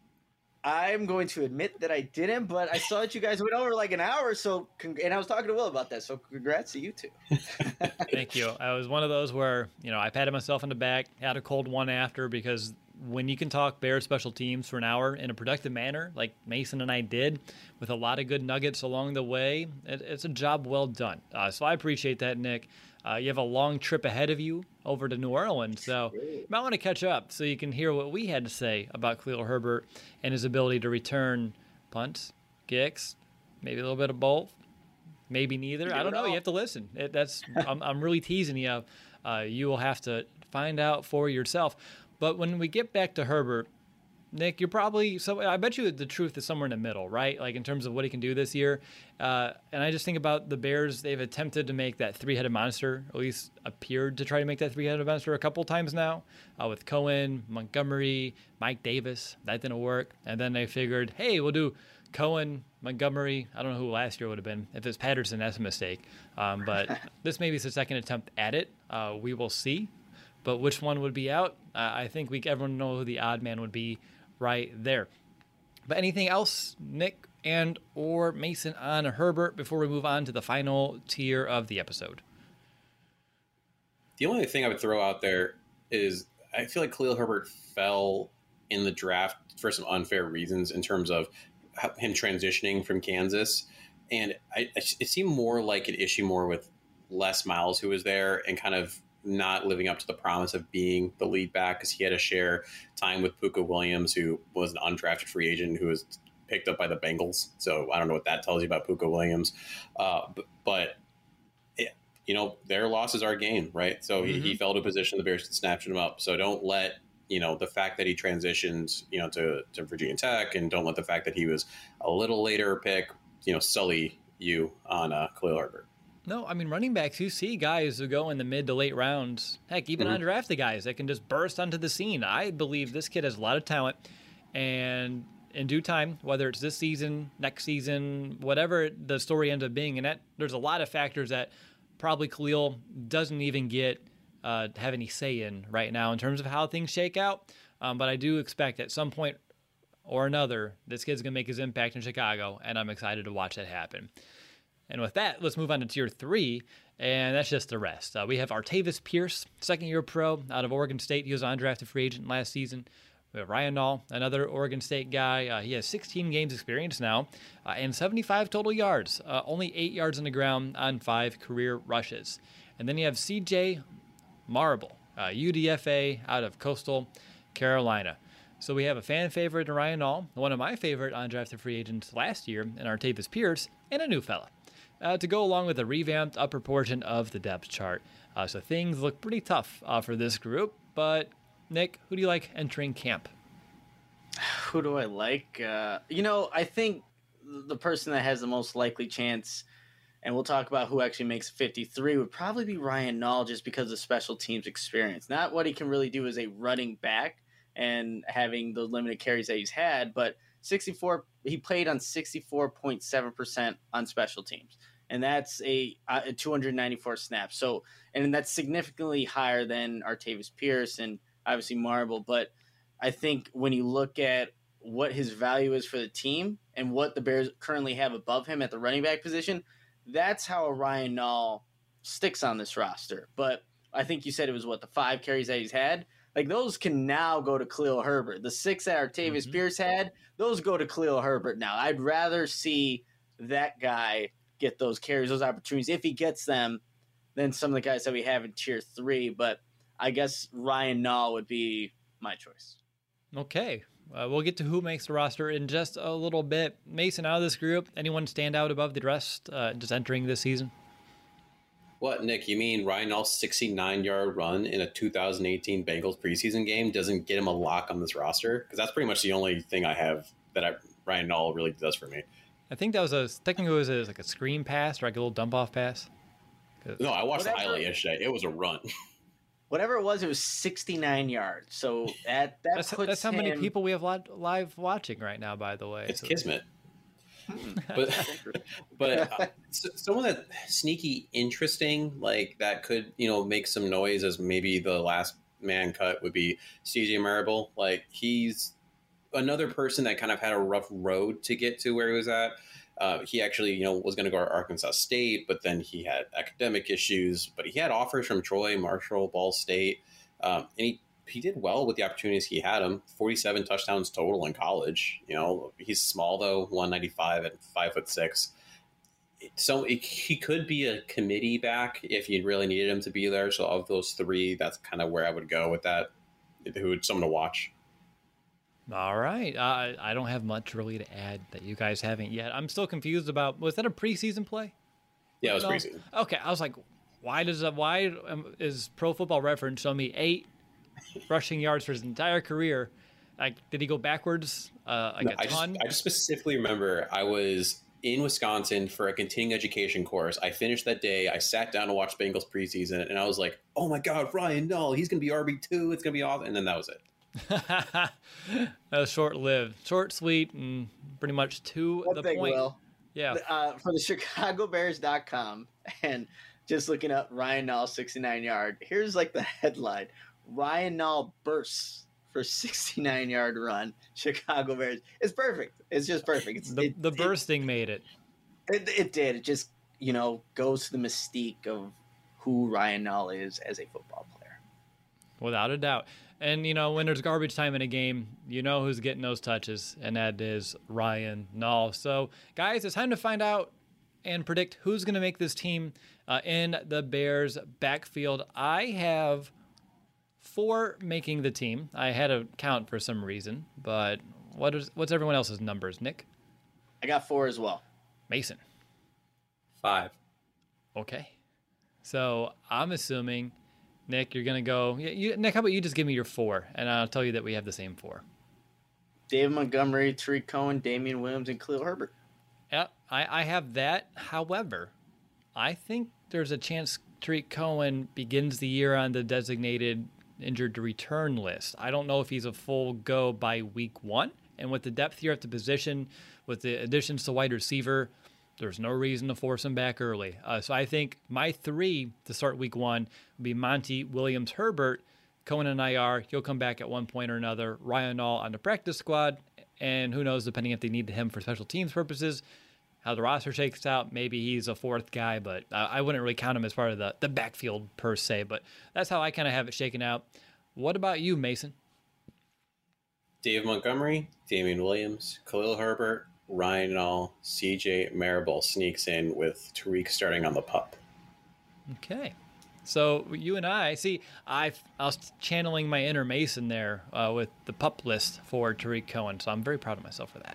I'm going to admit that I didn't, but I saw that you guys went over like an hour, and I was talking to Will about that, so congrats to you two. Thank you. I was one of those where, I patted myself on the back, had a cold one after, because when you can talk Bears special teams for an hour in a productive manner, like Mason and I did, with a lot of good nuggets along the way, it's a job well done. So I appreciate that, Nick. You have a long trip ahead of you over to New Orleans, so you might want to catch up so you can hear what we had to say about Khalil Herbert and his ability to return punts, kicks, maybe a little bit of both, maybe neither. I don't know. You have to listen. I'm really teasing you. You will have to find out for yourself. But when we get back to Herbert, Nick, you're probably I bet you the truth is somewhere in the middle, right? Like in terms of what he can do this year. And I just think about the Bears. They've attempted to make that 3-headed monster, at least appeared to try to make that 3-headed monster a couple times now with Cohen, Montgomery, Mike Davis. That didn't work. And then they figured, hey, we'll do Cohen, Montgomery. I don't know who last year would have been. If it's Patterson, that's a mistake. But this maybe is the second attempt at it. We will see. But which one would be out? I think everyone know who the odd man would be right there. But anything else, Nick and or Mason on Herbert before we move on to the final tier of the episode? The only thing I would throw out there is I feel like Khalil Herbert fell in the draft for some unfair reasons in terms of him transitioning from Kansas. And it seemed more like an issue more with Les Miles, who was there and kind of not living up to the promise of being the lead back because he had to share time with Pooka Williams, who was an undrafted free agent who was picked up by the Bengals. So I don't know what that tells you about Pooka Williams. But their loss is our gain, right? So he fell to a position the Bears could snatch him up. So don't let, the fact that he transitioned, to Virginia Tech, and don't let the fact that he was a little later pick, sully you on Khalil Herbert. No, I mean, running backs, you see guys who go in the mid to late rounds, heck, even undrafted guys that can just burst onto the scene. I believe this kid has a lot of talent, and in due time, whether it's this season, next season, whatever the story ends up being, and there's a lot of factors that probably Khalil doesn't even have any say in right now in terms of how things shake out. But I do expect at some point or another, this kid's going to make his impact in Chicago, and I'm excited to watch that happen. And with that, let's move on to tier 3, and that's just the rest. We have Artavis Pierce, second-year pro out of Oregon State. He was an undrafted free agent last season. We have Ryan Nall, another Oregon State guy. He has 16 games experience now and 75 total yards, only 8 yards on the ground on 5 career rushes. And then you have CJ Marble, UDFA out of Coastal Carolina. So we have a fan favorite in Ryan Nall, one of my favorite undrafted free agents last year in Artavis Pierce, and a new fella to go along with a revamped upper portion of the depth chart. So things look pretty tough for this group, but Nick, who do you like entering camp? Who do I like? I think the person that has the most likely chance, and we'll talk about who actually makes 53, would probably be Ryan Nall, just because of special teams experience. Not what he can really do as a running back and having the limited carries that he's had, but he played on 64.7% on special teams. And that's a 294 snaps. So, and that's significantly higher than Artavis Pierce and obviously Marble. But I think when you look at what his value is for the team and what the Bears currently have above him at the running back position, that's how a Ryan Nall sticks on this roster. But I think you said it was the 5 carries that he's had. Like, those can now go to Khalil Herbert. The 6 that Artavis Pierce had, those go to Khalil Herbert now. I'd rather see that guy get those carries, those opportunities, if he gets them, than some of the guys that we have in tier 3. But I guess Ryan Nall would be my choice. Okay. We'll get to who makes the roster in just a little bit. Mason, out of this group, anyone stand out above the rest just entering this season? What, Nick, you mean Ryan Nall's 69-yard run in a 2018 Bengals preseason game doesn't get him a lock on this roster? Because that's pretty much the only thing I have that Ryan Nall really does for me. I think that was technically it was like a screen pass or like a little dump-off pass. No, I watched the highlight yesterday. It was a run. Whatever it was 69 yards. So that's how many people we have live watching right now, by the way. It's kismet. But someone that sneaky interesting, like that could make some noise as maybe the last man cut would be CJ Marable. Like, he's another person that kind of had a rough road to get to where he was at. He actually was going to go to Arkansas State, but then he had academic issues. But he had offers from Troy, Marshall, Ball State, and he did well with the opportunities he had him. 47 touchdowns total in college. He's small though, 195 at 5'6". So he could be a committee back if you really needed him to be there. So of those 3, that's kind of where I would go with that. Who would someone to watch? All right. I don't have much really to add that you guys haven't yet. I'm still confused about, was that a preseason play? Yeah, it was preseason. Okay. I was like, why is Pro Football Reference showing me 8 rushing yards for his entire career? Like, did he go backwards a ton? I just specifically remember I was in Wisconsin for a continuing education course. I finished that day. I sat down to watch Bengals preseason, and I was like, oh my God, Ryan Nall, he's going to be RB2. It's going to be awesome. And then that was it. That was short-lived. Short, sweet, and pretty much to the point. Will. Yeah. For the ChicagoBears.com, and just looking up Ryan Nall 69-yard, here's like the headline. Ryan Nall bursts for 69-yard run. Chicago Bears. It's perfect. It's just perfect. The bursting made it. It did. It just, goes to the mystique of who Ryan Nall is as a football player. Without a doubt. And, when there's garbage time in a game, who's getting those touches, and that is Ryan Nall. So, guys, it's time to find out and predict who's going to make this team in the Bears backfield. I have 4 making the team. I had to count for some reason, but what's everyone else's numbers, Nick? I got 4 as well. Mason? 5. Okay. So I'm assuming, Nick, you're going to go... Nick, how about you just give me your 4, and I'll tell you that we have the same 4. David Montgomery, Tariq Cohen, Damian Williams, and Khalil Herbert. Yeah, I have that. However, I think there's a chance Tariq Cohen begins the year on the designated injured to return list. I don't know if he's a full go by week 1. And with the depth here at the position, with the additions to wide receiver, there's no reason to force him back early. So I think my 3 to start week 1 would be Monty, Williams, Herbert, Cohen and IR, he'll come back at one point or another. Ryan Nall on the practice squad, and who knows, depending if they need him for special teams purposes, how the roster shakes out, maybe he's a fourth guy, but I wouldn't really count him as part of the backfield per se, but that's how I kind of have it shaken out. What about you, Mason? Dave Montgomery, Damian Williams, Khalil Herbert, Ryan Nall, CJ Marable sneaks in with Tariq starting on the pup. Okay. So you and I was channeling my inner Mason there with the pup list for Tariq Cohen, so I'm very proud of myself for that.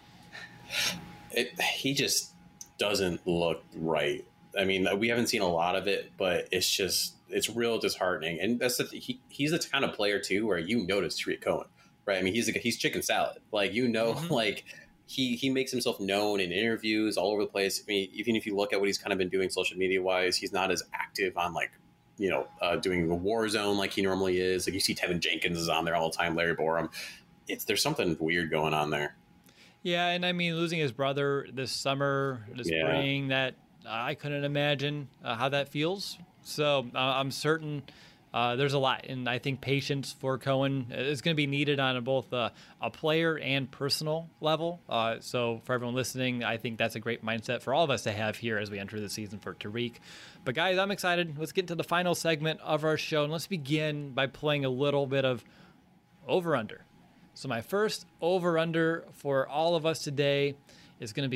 He just doesn't look right. I mean, we haven't seen a lot of it, but it's real disheartening. And that's he's the kind of player too where you notice Tariq Cohen, right? I mean, he's chicken salad, like like he makes himself known in interviews all over the place. I mean, even if you look at what he's kind of been doing social media wise, he's not as active on doing the war zone like he normally is. Like you see Tevin Jenkins is on there all the time, Larry Borum. There's something weird going on there. Yeah, and I mean, losing his brother this spring, that I couldn't imagine how that feels. So I'm certain there's a lot, and I think patience for Cohen is going to be needed on both a player and personal level. So for everyone listening, I think that's a great mindset for all of us to have here as we enter the season for Tariq. But guys, I'm excited. Let's get to the final segment of our show, and let's begin by playing a little bit of over-under. So my first over-under for all of us today is going to be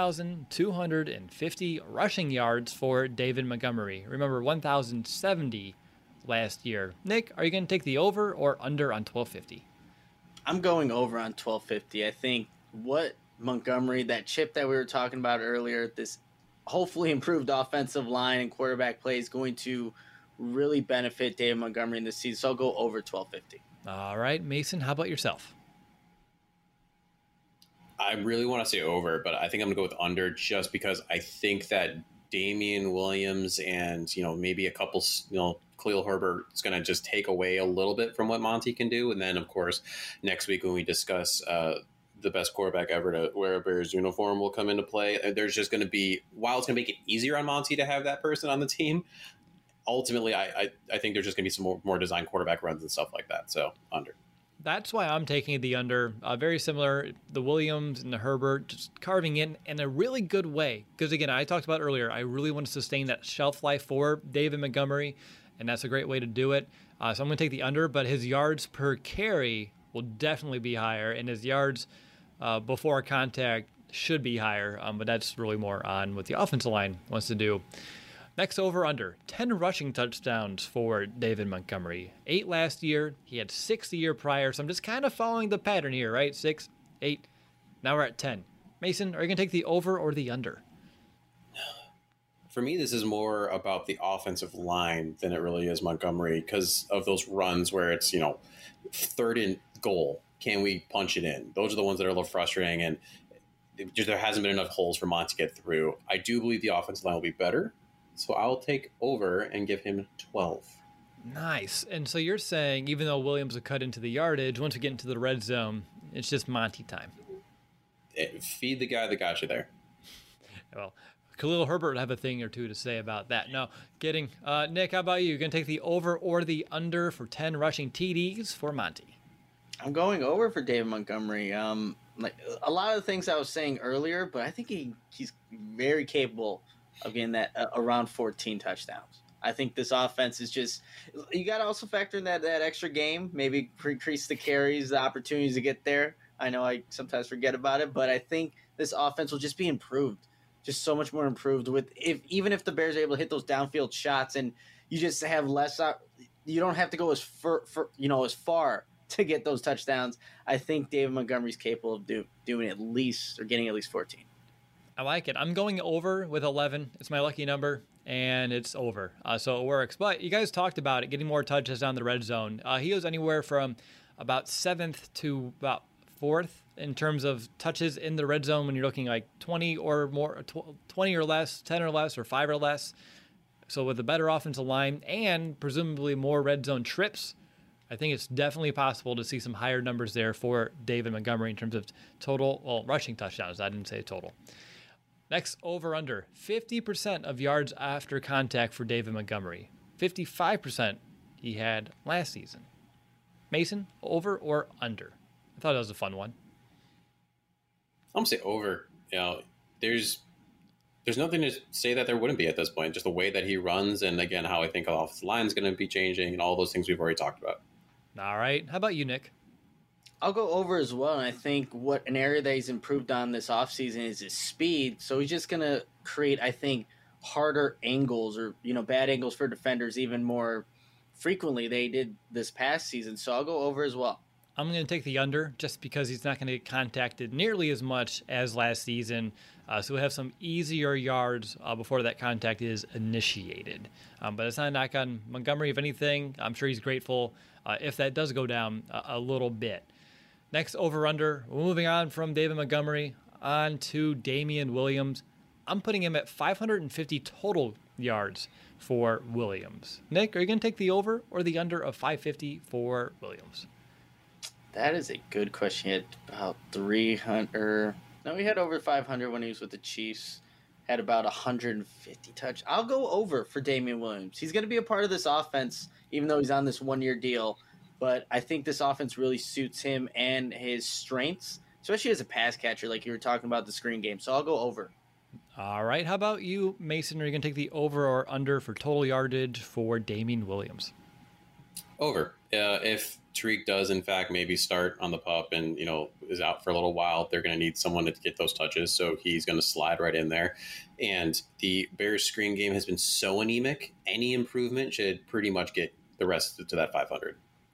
1,250 rushing yards for David Montgomery. Remember, 1,070 last year. Nick, are you going to take the over or under on 1,250? I'm going over on 1,250. I think what Montgomery, that chip that we were talking about earlier, this hopefully improved offensive line and quarterback play is going to really benefit David Montgomery in this season. So I'll go over 1,250. All right, Mason, how about yourself? I really want to say over, but I think I'm going to go with under just because I think that Damian Williams and, maybe a couple, Khalil Herbert is going to just take away a little bit from what Monty can do. And then, of course, next week when we discuss the best quarterback ever to wear a Bears uniform will come into play. There's just going to be, while it's going to make it easier on Monty to have that person on the team, ultimately, I think there's just going to be some more design quarterback runs and stuff like that. So under. That's why I'm taking the under. Very similar, the Williams and the Herbert just carving in a really good way. Because again, I talked about earlier, I really want to sustain that shelf life for David Montgomery, and that's a great way to do it. So I'm going to take the under, but his yards per carry will definitely be higher, and his yards before contact should be higher. But that's really more on what the offensive line wants to do. Next over under, 10 rushing touchdowns for David Montgomery. 8 last year. He had 6 the year prior. So I'm just kind of following the pattern here, right? 6, 8. Now we're at 10. Mason, are you going to take the over or the under? For me, this is more about the offensive line than it really is Montgomery because of those runs where it's, third and goal. Can we punch it in? Those are the ones that are a little frustrating, and there hasn't been enough holes for Monty to get through. I do believe the offensive line will be better. So I'll take over and give him 12. Nice. And so you're saying, even though Williams will cut into the yardage, once we get into the red zone, it's just Monty time. Feed the guy that got you there. Well, Khalil Herbert would have a thing or two to say about that. No, kidding. Nick, how about you? You going to take the over or the under for 10 rushing TDs for Monty? I'm going over for David Montgomery. Like a lot of the things I was saying earlier, but I think he's very capable of getting that around 14 touchdowns. I think this offense is just – you got to also factor in that extra game, maybe increase the carries, the opportunities to get there. I know I sometimes forget about it, but I think this offense will just be improved, just so much more improved with even if the Bears are able to hit those downfield shots and you just have less you don't have to go as far to get those touchdowns. I think David Montgomery's capable of doing at least or getting at least 14. I like it. I'm going over with 11. It's my lucky number, and it's over. So it works. But you guys talked about it, getting more touches down the red zone. He goes anywhere from about 7th to about 4th in terms of touches in the red zone when you're looking like 20 or more, 20 or less, 10 or less, or 5 or less. So with a better offensive line and presumably more red zone trips, I think it's definitely possible to see some higher numbers there for David Montgomery in terms of total, rushing touchdowns. I didn't say total. Next, over-under, 50% of yards after contact for David Montgomery. 55% he had last season. Mason, over or under? I thought that was a fun one. I'm gonna say over. You know, there's nothing to say that there wouldn't be at this point. Just the way that he runs, and again, how I think the offensive line is going to be changing, and all those things we've already talked about. All right. How about you, Nick? I'll go over as well, and I think what an area that he's improved on this offseason is his speed. So he's just going to create, I think, harder angles or, bad angles for defenders even more frequently they did this past season. So I'll go over as well. I'm going to take the under just because he's not going to get contacted nearly as much as last season. So we'll have some easier yards before that contact is initiated. But it's not a knock on Montgomery. If anything, I'm sure he's grateful if that does go down a little bit. Next, over-under. Moving on from David Montgomery on to Damian Williams. I'm putting him at 550 total yards for Williams. Nick, are you going to take the over or the under of 550 for Williams? That is a good question. He had about 300. No, he had over 500 when he was with the Chiefs. Had about 150 touch. I'll go over for Damian Williams. He's going to be a part of this offense, even though he's on this one-year deal. But I think this offense really suits him and his strengths, especially as a pass catcher, like you were talking about the screen game. So I'll go over. All right. How about you, Mason? Are you going to take the over or under for total yardage for Damian Williams? Over. If Tariq does, in fact, maybe start on the pup and, is out for a little while, they're going to need someone to get those touches. So he's going to slide right in there. And the Bears screen game has been so anemic. Any improvement should pretty much get the rest to that 500.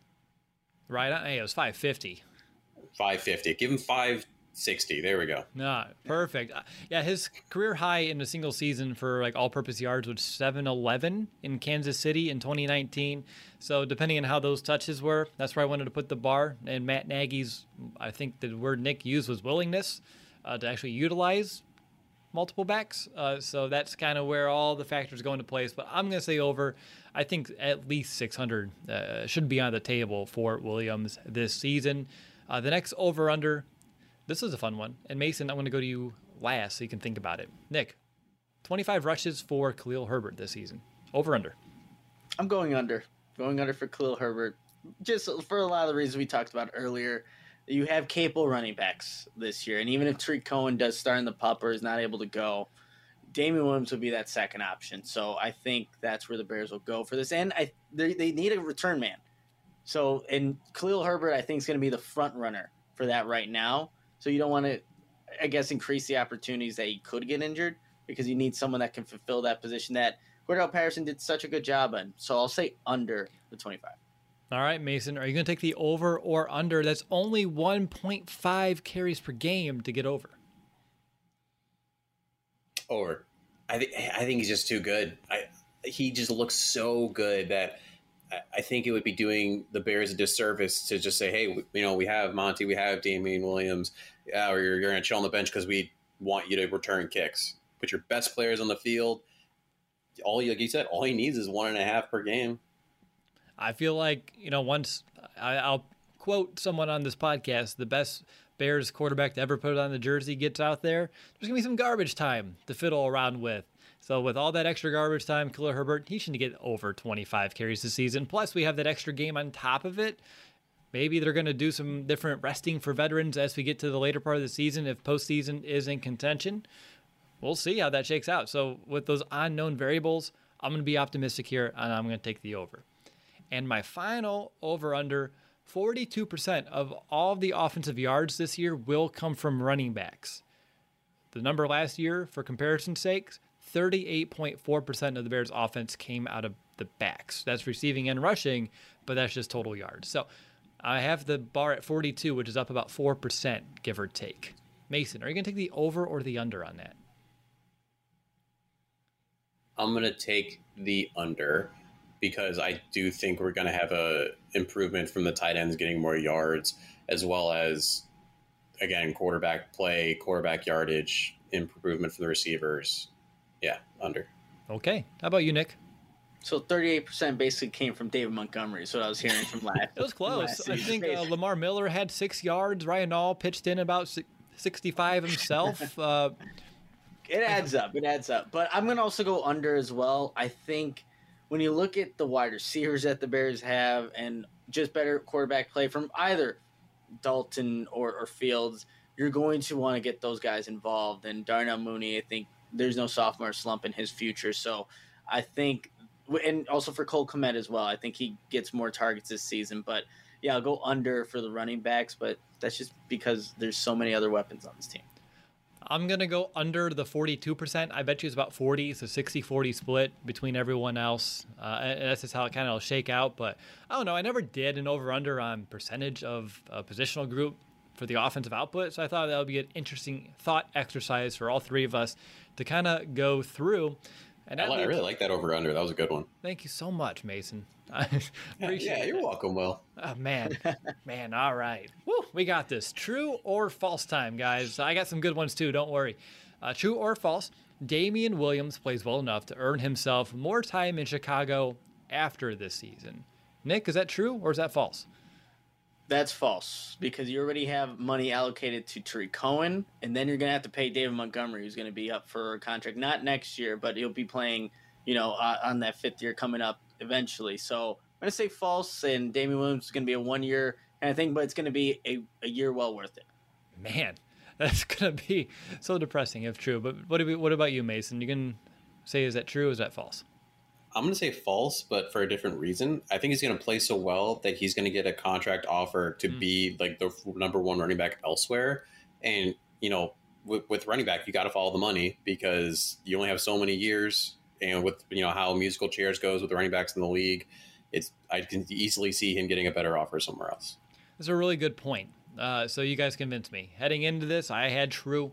Right. Hey, it was 550. 550. Give him 560. There we go. No, perfect. Yeah, his career high in a single season for all-purpose yards was 711 in Kansas City in 2019. So depending on how those touches were, that's where I wanted to put the bar. And Matt Nagy's, I think the word Nick used was willingness to actually utilize multiple backs. So that's kind of where all the factors go into place. But I'm going to say over. I think at least 600 should be on the table for Williams this season. The next over-under, this is a fun one. And Mason, I'm going to go to you last so you can think about it. Nick, 25 rushes for Khalil Herbert this season. Over-under. I'm going under. Going under for Khalil Herbert. Just for a lot of the reasons we talked about earlier. You have capable running backs this year. And even if Tariq Cohen does start in the pup or is not able to go, Damian Williams would be that second option. So I think that's where the Bears will go for this. And they need a return man. So, and Khalil Herbert, I think, is going to be the front runner for that right now. So you don't want to, I guess, increase the opportunities that he could get injured because you need someone that can fulfill that position that Cordell Patterson did such a good job on. So I'll say under the 25. All right, Mason, are you going to take the over or under? That's only 1.5 carries per game to get over. Over. I think he's just too good. He just looks so good that I think it would be doing the Bears a disservice to just say, hey, we have Monty, we have Damian Williams, or you're going to chill on the bench because we want you to return kicks. Put your best players on the field. Like you said, all he needs is 1.5 per game. I feel like, once I'll quote someone on this podcast, the best Bears quarterback to ever put it on the jersey gets out there, there's going to be some garbage time to fiddle around with. So with all that extra garbage time, Khalil Herbert, he should get over 25 carries this season. Plus, we have that extra game on top of it. Maybe they're going to do some different resting for veterans as we get to the later part of the season if postseason is in contention. We'll see how that shakes out. So with those unknown variables, I'm going to be optimistic here, and I'm going to take the over. And my final over-under, 42% of all of the offensive yards this year will come from running backs. The number last year, for comparison's sake, 38.4% of the Bears' offense came out of the backs. That's receiving and rushing, but that's just total yards. So I have the bar at 42, which is up about 4%, give or take. Mason, are you going to take the over or the under on that? I'm going to take the under because I do think we're going to have a improvement from the tight ends getting more yards, as well as, again, quarterback play, quarterback yardage, improvement from the receivers. Yeah, under. Okay. How about you, Nick? So 38% basically came from David Montgomery. So what I was hearing from last. It was close. I think Lamar Miller had 6 yards. Ryan Nall pitched in about 65 himself. It adds up. It adds up. But I'm going to also go under as well. I think when you look at the wide receivers that the Bears have and just better quarterback play from either Dalton or Fields, you're going to want to get those guys involved. And Darnell Mooney, I think there's no sophomore slump in his future. So I think, and also for Cole Kmet as well, I think he gets more targets this season. But yeah, I'll go under for the running backs, but that's just because there's so many other weapons on this team. I'm going to go under the 42%. I bet you it's about 40. It's a 60-40 split between everyone else. And that's just how it kind of will shake out. But I don't know. I never did an over-under on percentage of a positional group for the offensive output. So I thought that would be an interesting thought exercise for all three of us to kind of go through. And I really like that over-under. That was a good one. Thank you so much, Mason. I appreciate Yeah, you're welcome, Will. Oh, man. All right. Woo, we got this. True or false time, guys. I got some good ones, too. Don't worry. True or false, Damian Williams plays well enough to earn himself more time in Chicago after this season. Nick, is that true or is that false? That's false, because you already have money allocated to Tariq Cohen, and then you're going to have to pay David Montgomery, who's going to be up for a contract, not next year, but he'll be playing, on that fifth year coming up eventually. So I'm going to say false, and Damian Williams is going to be a 1 year kind of thing, but it's going to be a year well worth it. Man, that's going to be so depressing if true. But what about you, Mason? You can say, is that true or is that false? I'm going to say false, but for a different reason. I think he's going to play so well that he's going to get a contract offer to be like the number one running back elsewhere. And, with running back, you got to follow the money because you only have so many years. And with, how musical chairs goes with the running backs in the league, I can easily see him getting a better offer somewhere else. That's a really good point. So you guys convinced me. Heading into this, I had true.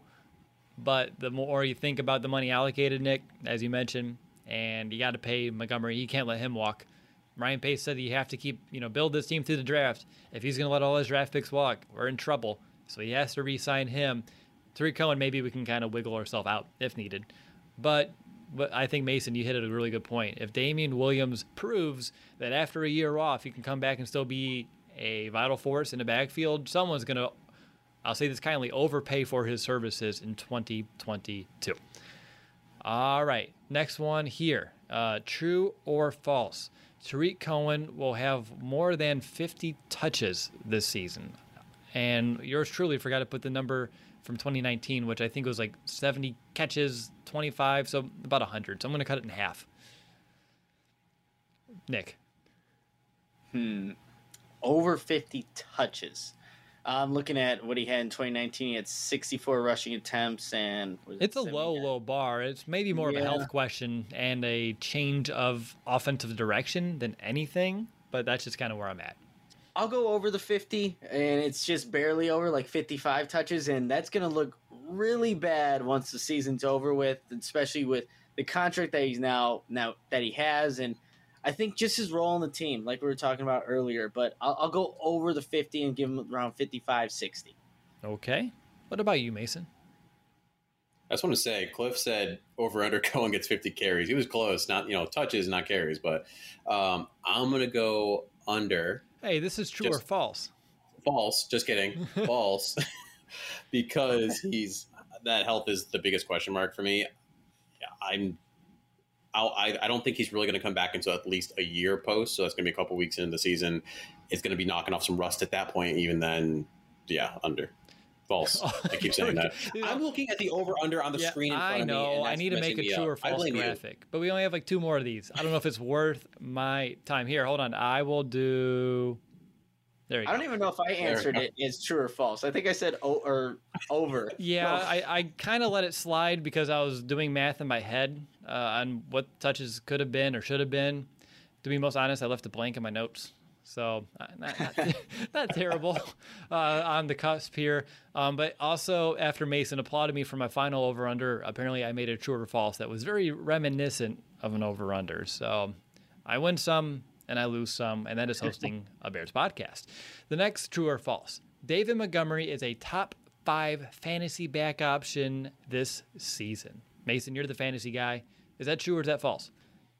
But the more you think about the money allocated, Nick, as you mentioned, and you got to pay Montgomery. You can't let him walk. Ryan Pace said you have to keep, build this team through the draft. If he's going to let all his draft picks walk, we're in trouble. So he has to re-sign him. Tariq Cohen, maybe we can kind of wiggle ourselves out if needed. But I think, Mason, you hit a really good point. If Damian Williams proves that after a year off, he can come back and still be a vital force in the backfield, someone's going to, I'll say this kindly, overpay for his services in 2022. All right, next one here. True or false? Tariq Cohen will have more than 50 touches this season. And yours truly forgot to put the number from 2019, which I think was like 70 catches, 25, so about 100. So I'm going to cut it in half. Nick. Over 50 touches. I'm looking at what he had in 2019. He had 64 rushing attempts, and it's a low bar. It's maybe more of a health question and a change of offensive direction than anything, but that's just kind of where I'm at. I'll go over the 50, and it's just barely over, like 55 touches, and that's going to look really bad once the season's over with, especially with the contract that he's now that he has, and I think just his role on the team, like we were talking about earlier, but I'll go over the 50 and give him around 55, 60. Okay. What about you, Mason? I just want to say, Cliff said over-under Cohen gets 50 carries. He was close, not touches, not carries, but I'm going to go under. Hey, this is true or false? False. Just kidding. False. Because that health is the biggest question mark for me. I don't think he's really going to come back until at least a year post. So that's going to be a couple weeks into the season. It's going to be knocking off some rust at that point. Even then, under. False. I keep saying that. I'm looking at the over-under on the screen in front of me. I know. I need to make a true or false graphic. But we only have like 2 more of these. I don't know if it's worth my time. Here, hold on. I will do... There you go. I don't even know if I answered it as true or false. I think I said or over. Yeah, I kind of let it slide because I was doing math in my head on what touches could have been or should have been. To be most honest, I left it blank in my notes. So not terrible on the cusp here. But also, after Mason applauded me for my final over-under, apparently I made a true or false that was very reminiscent of an over-under. So I win some and I lose some, and that is hosting a Bears podcast. The next true or false. David Montgomery is a top 5 fantasy back option this season. Mason, you're the fantasy guy. Is that true or is that false?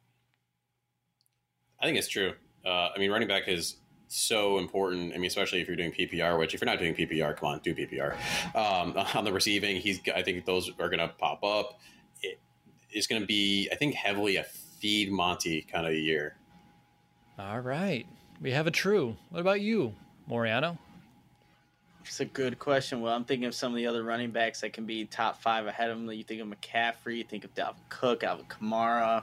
I think it's true. Running back is so important. Especially if you're doing PPR, which if you're not doing PPR, come on, do PPR. On the receiving, I think those are going to pop up. It's going to be, I think, heavily a feed Monty kind of year. All right. We have a true. What about you, Moriano? It's a good question. Well, I'm thinking of some of the other running backs that can be top 5 ahead of him. You think of McCaffrey, you think of Dalvin Cook, Alvin Kamara.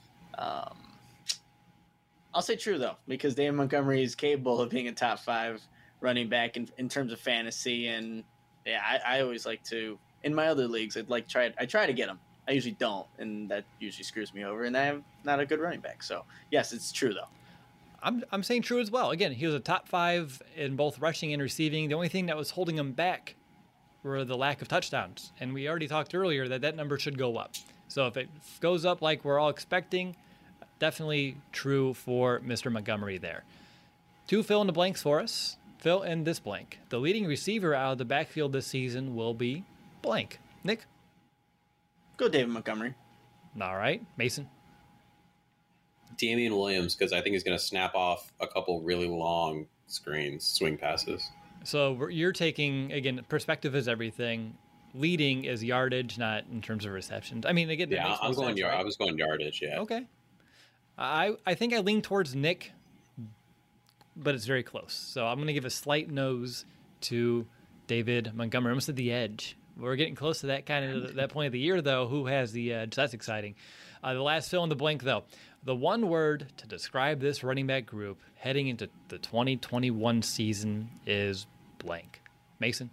I'll say true, though, because David Montgomery is capable of being a top 5 running back in terms of fantasy. And, yeah, I always like to, in my other leagues, I try to get him. I usually don't, and that usually screws me over, and I am not a good running back. So, yes, it's true, though. I'm saying true as well. Again, he was a top 5 in both rushing and receiving. The only thing that was holding him back were the lack of touchdowns. And we already talked earlier that number should go up. So if it goes up like we're all expecting, definitely true for Mr. Montgomery there. 2 fill in the blanks for us. Fill in this blank. The leading receiver out of the backfield this season will be blank. Nick? Go David Montgomery. All right. Mason? Damian Williams, because I think he's going to snap off a couple really long swing passes. So you're taking, again, perspective is everything. Leading is yardage, not in terms of receptions. I mean, again, yeah, I'm going yardage. Right? I was going yardage. Yeah. Okay. I think I lean towards Nick, but it's very close. So I'm going to give a slight nose to David Montgomery. Almost at the edge. We're getting close to that that point of the year, though. Who has the edge? That's exciting. The last fill in the blank, though. The one word to describe this running back group heading into the 2021 season is blank. Mason?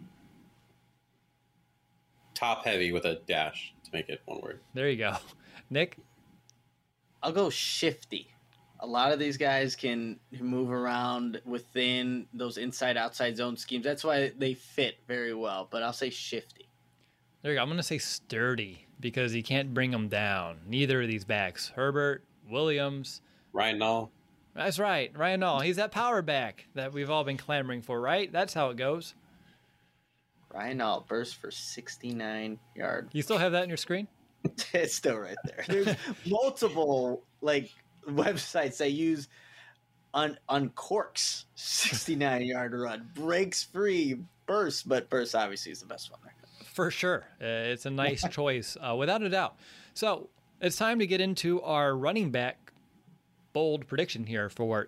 Top heavy with a dash to make it one word. There you go. Nick? I'll go shifty. A lot of these guys can move around within those inside-outside zone schemes. That's why they fit very well, but I'll say shifty. There you go. I'm going to say sturdy because you can't bring them down. Neither of these backs. Herbert, Williams. Ryan Nall. That's right. Ryan Nall. He's that power back that we've all been clamoring for, right? That's how it goes. Ryan Nall burst for 69 yards. You still have that in your screen? It's still right there. There's multiple websites that use uncorks 69-yard run, breaks free, burst, but burst obviously is the best one there. For sure. It's a nice choice, without a doubt. So it's time to get into our running back bold prediction here for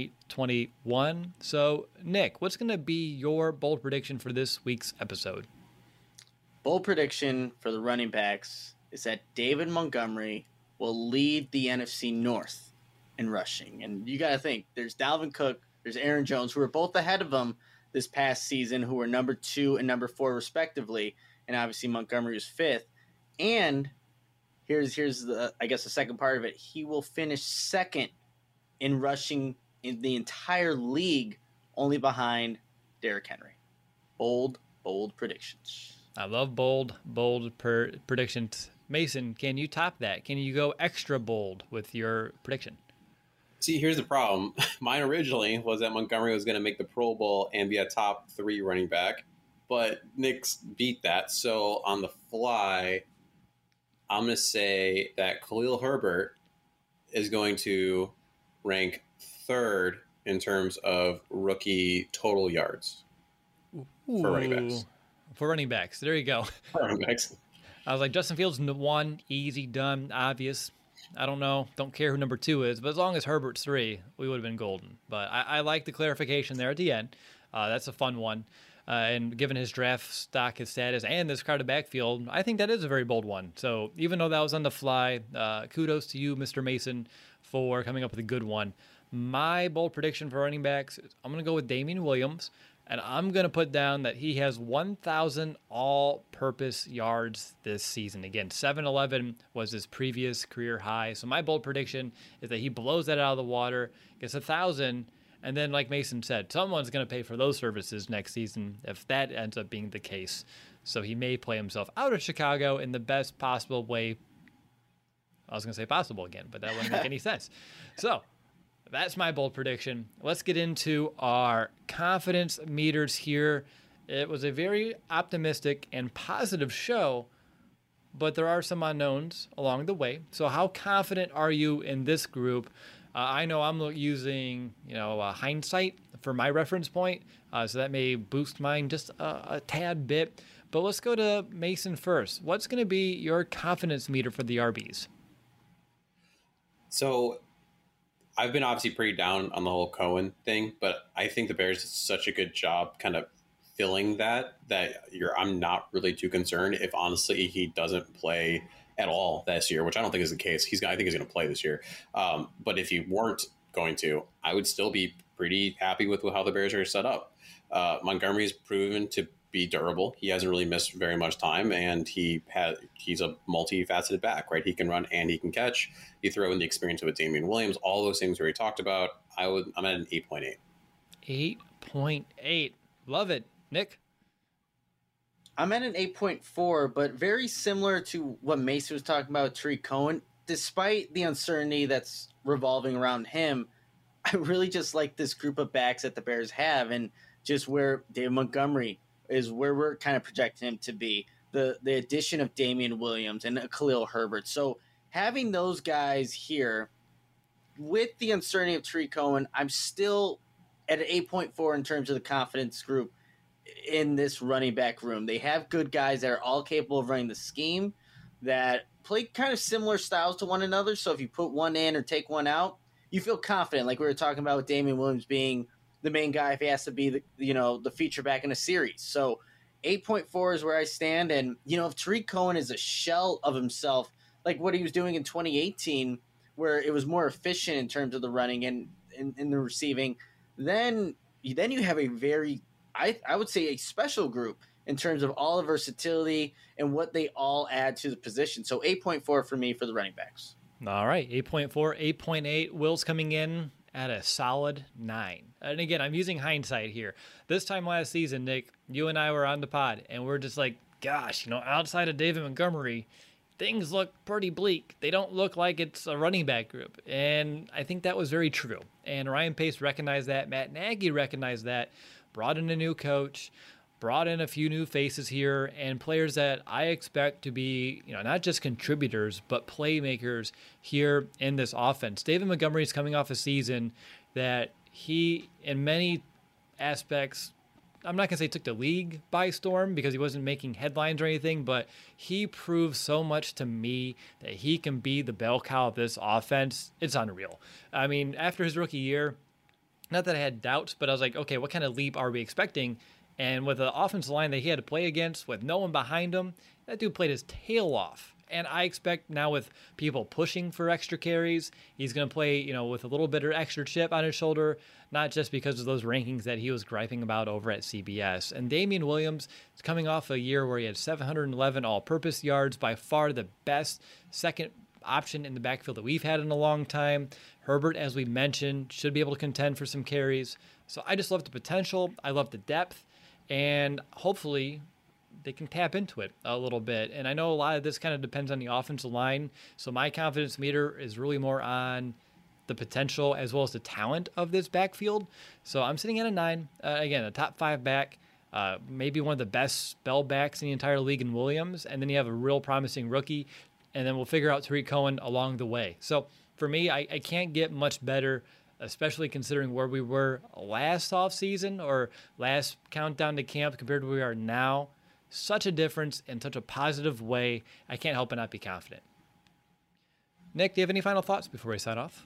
2021. So, Nick, what's going to be your bold prediction for this week's episode? Bold prediction for the running backs is that David Montgomery will lead the NFC North in rushing. And you got to think, there's Dalvin Cook, there's Aaron Jones, who are both ahead of him this past season, who were number 2 and number 4 respectively. And obviously Montgomery was 5th. And here's the second part of it. He will finish 2nd in rushing in the entire league, only behind Derrick Henry. Bold predictions. I love bold predictions. Mason, can you top that? Can you go extra bold with your prediction? See, here's the problem. Mine originally was that Montgomery was going to make the Pro Bowl and be a top 3 running back, but Nick's beat that. So on the fly, I'm going to say that Khalil Herbert is going to rank 3rd in terms of rookie total yards for running backs. For running backs. There you go. For running backs. I was like, Justin Fields, 1, easy, done, obvious. I don't know. Don't care who number 2 is. But as long as Herbert's 3, we would have been golden. But I like the clarification there at the end. That's a fun one. And given his draft stock, his status, and this crowded backfield, I think that is a very bold one. So even though that was on the fly, kudos to you, Mr. Mason, for coming up with a good one. My bold prediction for running backs, I'm going to go with Damian Williams. And I'm going to put down that he has 1,000 all-purpose yards this season. Again, 711 was his previous career high. So my bold prediction is that he blows that out of the water, gets 1,000, and then, like Mason said, someone's going to pay for those services next season if that ends up being the case. So he may play himself out of Chicago in the best possible way. I was going to say possible again, but that wouldn't make any sense. So that's my bold prediction. Let's get into our confidence meters here. It was a very optimistic and positive show, but there are some unknowns along the way. So how confident are you in this group? I know I'm using, hindsight for my reference point, so that may boost mine just a tad bit. But let's go to Mason first. What's going to be your confidence meter for the RBs? So I've been obviously pretty down on the whole Cohen thing, but I think the Bears did such a good job kind of filling I'm not really too concerned if honestly he doesn't play at all this year, which I don't think is the case. I think he's going to play this year. But if he weren't going to, I would still be pretty happy with how the Bears are set up. Montgomery's proven to be durable. He hasn't really missed very much time, and he's a multifaceted back, right? He can run and he can catch. You throw in the experience of a Damian Williams, all those things we already talked about. I'm at an 8.8. 8.8. Love it. Nick? I'm at an 8.4, but very similar to what Mason was talking about with Tarik Cohen. Despite the uncertainty that's revolving around him, I really just like this group of backs that the Bears have, and just where David Montgomery is where we're kind of projecting him to be. The addition of Damian Williams and Khalil Herbert. So having those guys here with the uncertainty of Tarik Cohen, I'm still at an 8.4 in terms of the confidence group in this running back room. They have good guys that are all capable of running the scheme, that play kind of similar styles to one another. So if you put one in or take one out, you feel confident, like we were talking about with Damian Williams being the main guy if he has to be the feature back in a series. So 8.4 is where I stand. And, if Tarik Cohen is a shell of himself, like what he was doing in 2018, where it was more efficient in terms of the running and in the receiving, then you have a very, I would say, a special group in terms of all the versatility and what they all add to the position. So 8.4 for me for the running backs. All right, 8.4, 8.8. Will's coming in at a solid 9. And again, I'm using hindsight here. This time last season, Nick, you and I were on the pod, and we're just like, gosh, outside of David Montgomery, things look pretty bleak. They don't look like it's a running back group. And I think that was very true. And Ryan Pace recognized that. Matt Nagy recognized that. Brought in a new coach, brought in a few new faces here, and players that I expect to be, not just contributors, but playmakers here in this offense. David Montgomery is coming off a season that he, in many aspects, I'm not going to say took the league by storm because he wasn't making headlines or anything, but he proved so much to me that he can be the bell cow of this offense. It's unreal. I mean, after his rookie year, not that I had doubts, but I was like, okay, what kind of leap are we expecting? And with the offensive line that he had to play against with no one behind him, that dude played his tail off. And I expect now with people pushing for extra carries, he's going to play, with a little bit of extra chip on his shoulder, not just because of those rankings that he was griping about over at CBS. And Damian Williams is coming off a year where he had 711 all-purpose yards, by far the best second option in the backfield that we've had in a long time. Herbert, as we mentioned, should be able to contend for some carries. So I just love the potential. I love the depth. And hopefully they can tap into it a little bit. And I know a lot of this kind of depends on the offensive line. So my confidence meter is really more on the potential as well as the talent of this backfield. So I'm sitting at a 9. Again, a top 5 back, maybe one of the best spell backs in the entire league in Williams. And then you have a real promising rookie. And then we'll figure out Tarik Cohen along the way. So for me, I can't get much better, especially considering where we were last offseason or last countdown to camp compared to where we are now. Such a difference in such a positive way. I can't help but not be confident. Nick, do you have any final thoughts before we sign off?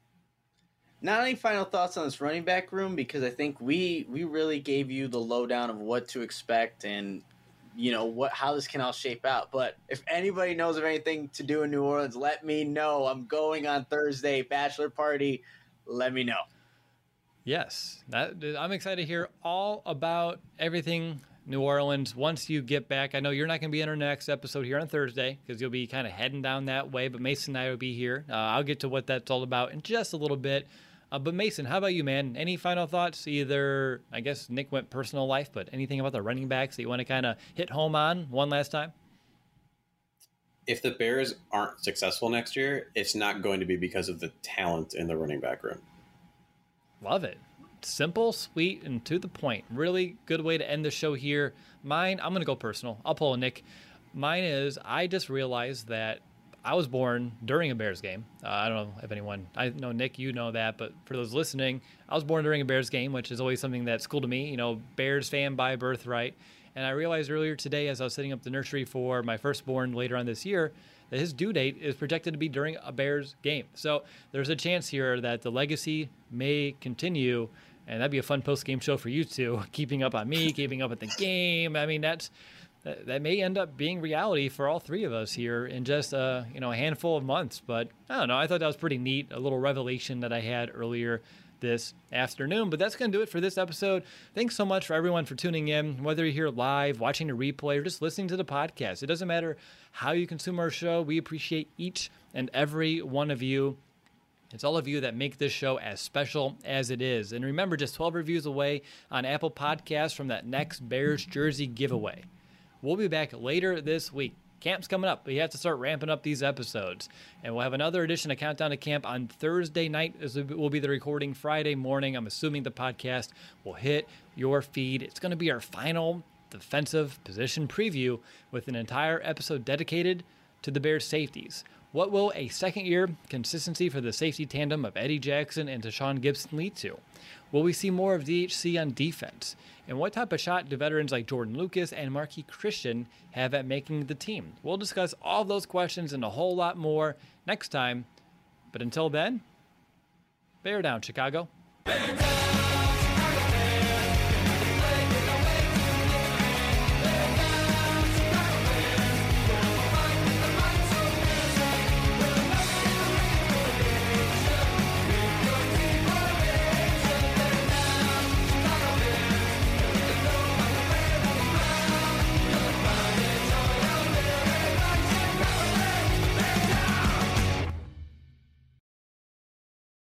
Not any final thoughts on this running back room, because I think we really gave you the lowdown of what to expect and how this can all shape out. But if anybody knows of anything to do in New Orleans, let me know. I'm going on Thursday, bachelor party. Let me know. Yes, I'm excited to hear all about everything New Orleans once you get back. I know you're not going to be in our next episode here on Thursday because you'll be kind of heading down that way, but Mason and I will be here. I'll get to what that's all about in just a little bit. But Mason, how about you, man? Any final thoughts? Either, I guess Nick went personal life, but anything about the running backs that you want to kind of hit home on one last time? If the Bears aren't successful next year, it's not going to be because of the talent in the running back room. Love it. Simple, sweet, and to the point. Really good way to end the show here. Mine, I'm going to go personal. I'll pull a Nick. Mine is, I just realized that I was born during a Bears game. I don't know if anyone, I know Nick, you know that, but for those listening, I was born during a Bears game, which is always something that's cool to me. Bears fan by birthright. And I realized earlier today, as I was setting up the nursery for my firstborn later on this year, that his due date is projected to be during a Bears game. So there's a chance here that the legacy may continue, and that'd be a fun post-game show for you two, keeping up on me, keeping up at the game. I mean, that may end up being reality for all three of us here in just a handful of months. But I don't know. I thought that was pretty neat, a little revelation that I had earlier this afternoon. But that's going to do it for this episode. Thanks so much for everyone for tuning in, whether you're here live, watching a replay, or just listening to the podcast. It doesn't matter how you consume our show. We appreciate each and every one of you. It's all of you that make this show as special as it is. And remember, just 12 reviews away on Apple Podcasts from that next Bears jersey giveaway. We'll be back later this week. Camp's coming up. We have to start ramping up these episodes. And we'll have another edition of Countdown to Camp on Thursday night, as will be the recording Friday morning. I'm assuming the podcast will hit your feed. It's going to be our final defensive position preview with an entire episode dedicated to the Bears safeties. What will a second-year consistency for the safety tandem of Eddie Jackson and Tashaun Gibson lead to? Will we see more of DHC on defense? And what type of shot do veterans like Jordan Lucas and Marquis Christian have at making the team? We'll discuss all those questions and a whole lot more next time. But until then, bear down, Chicago. Bear down!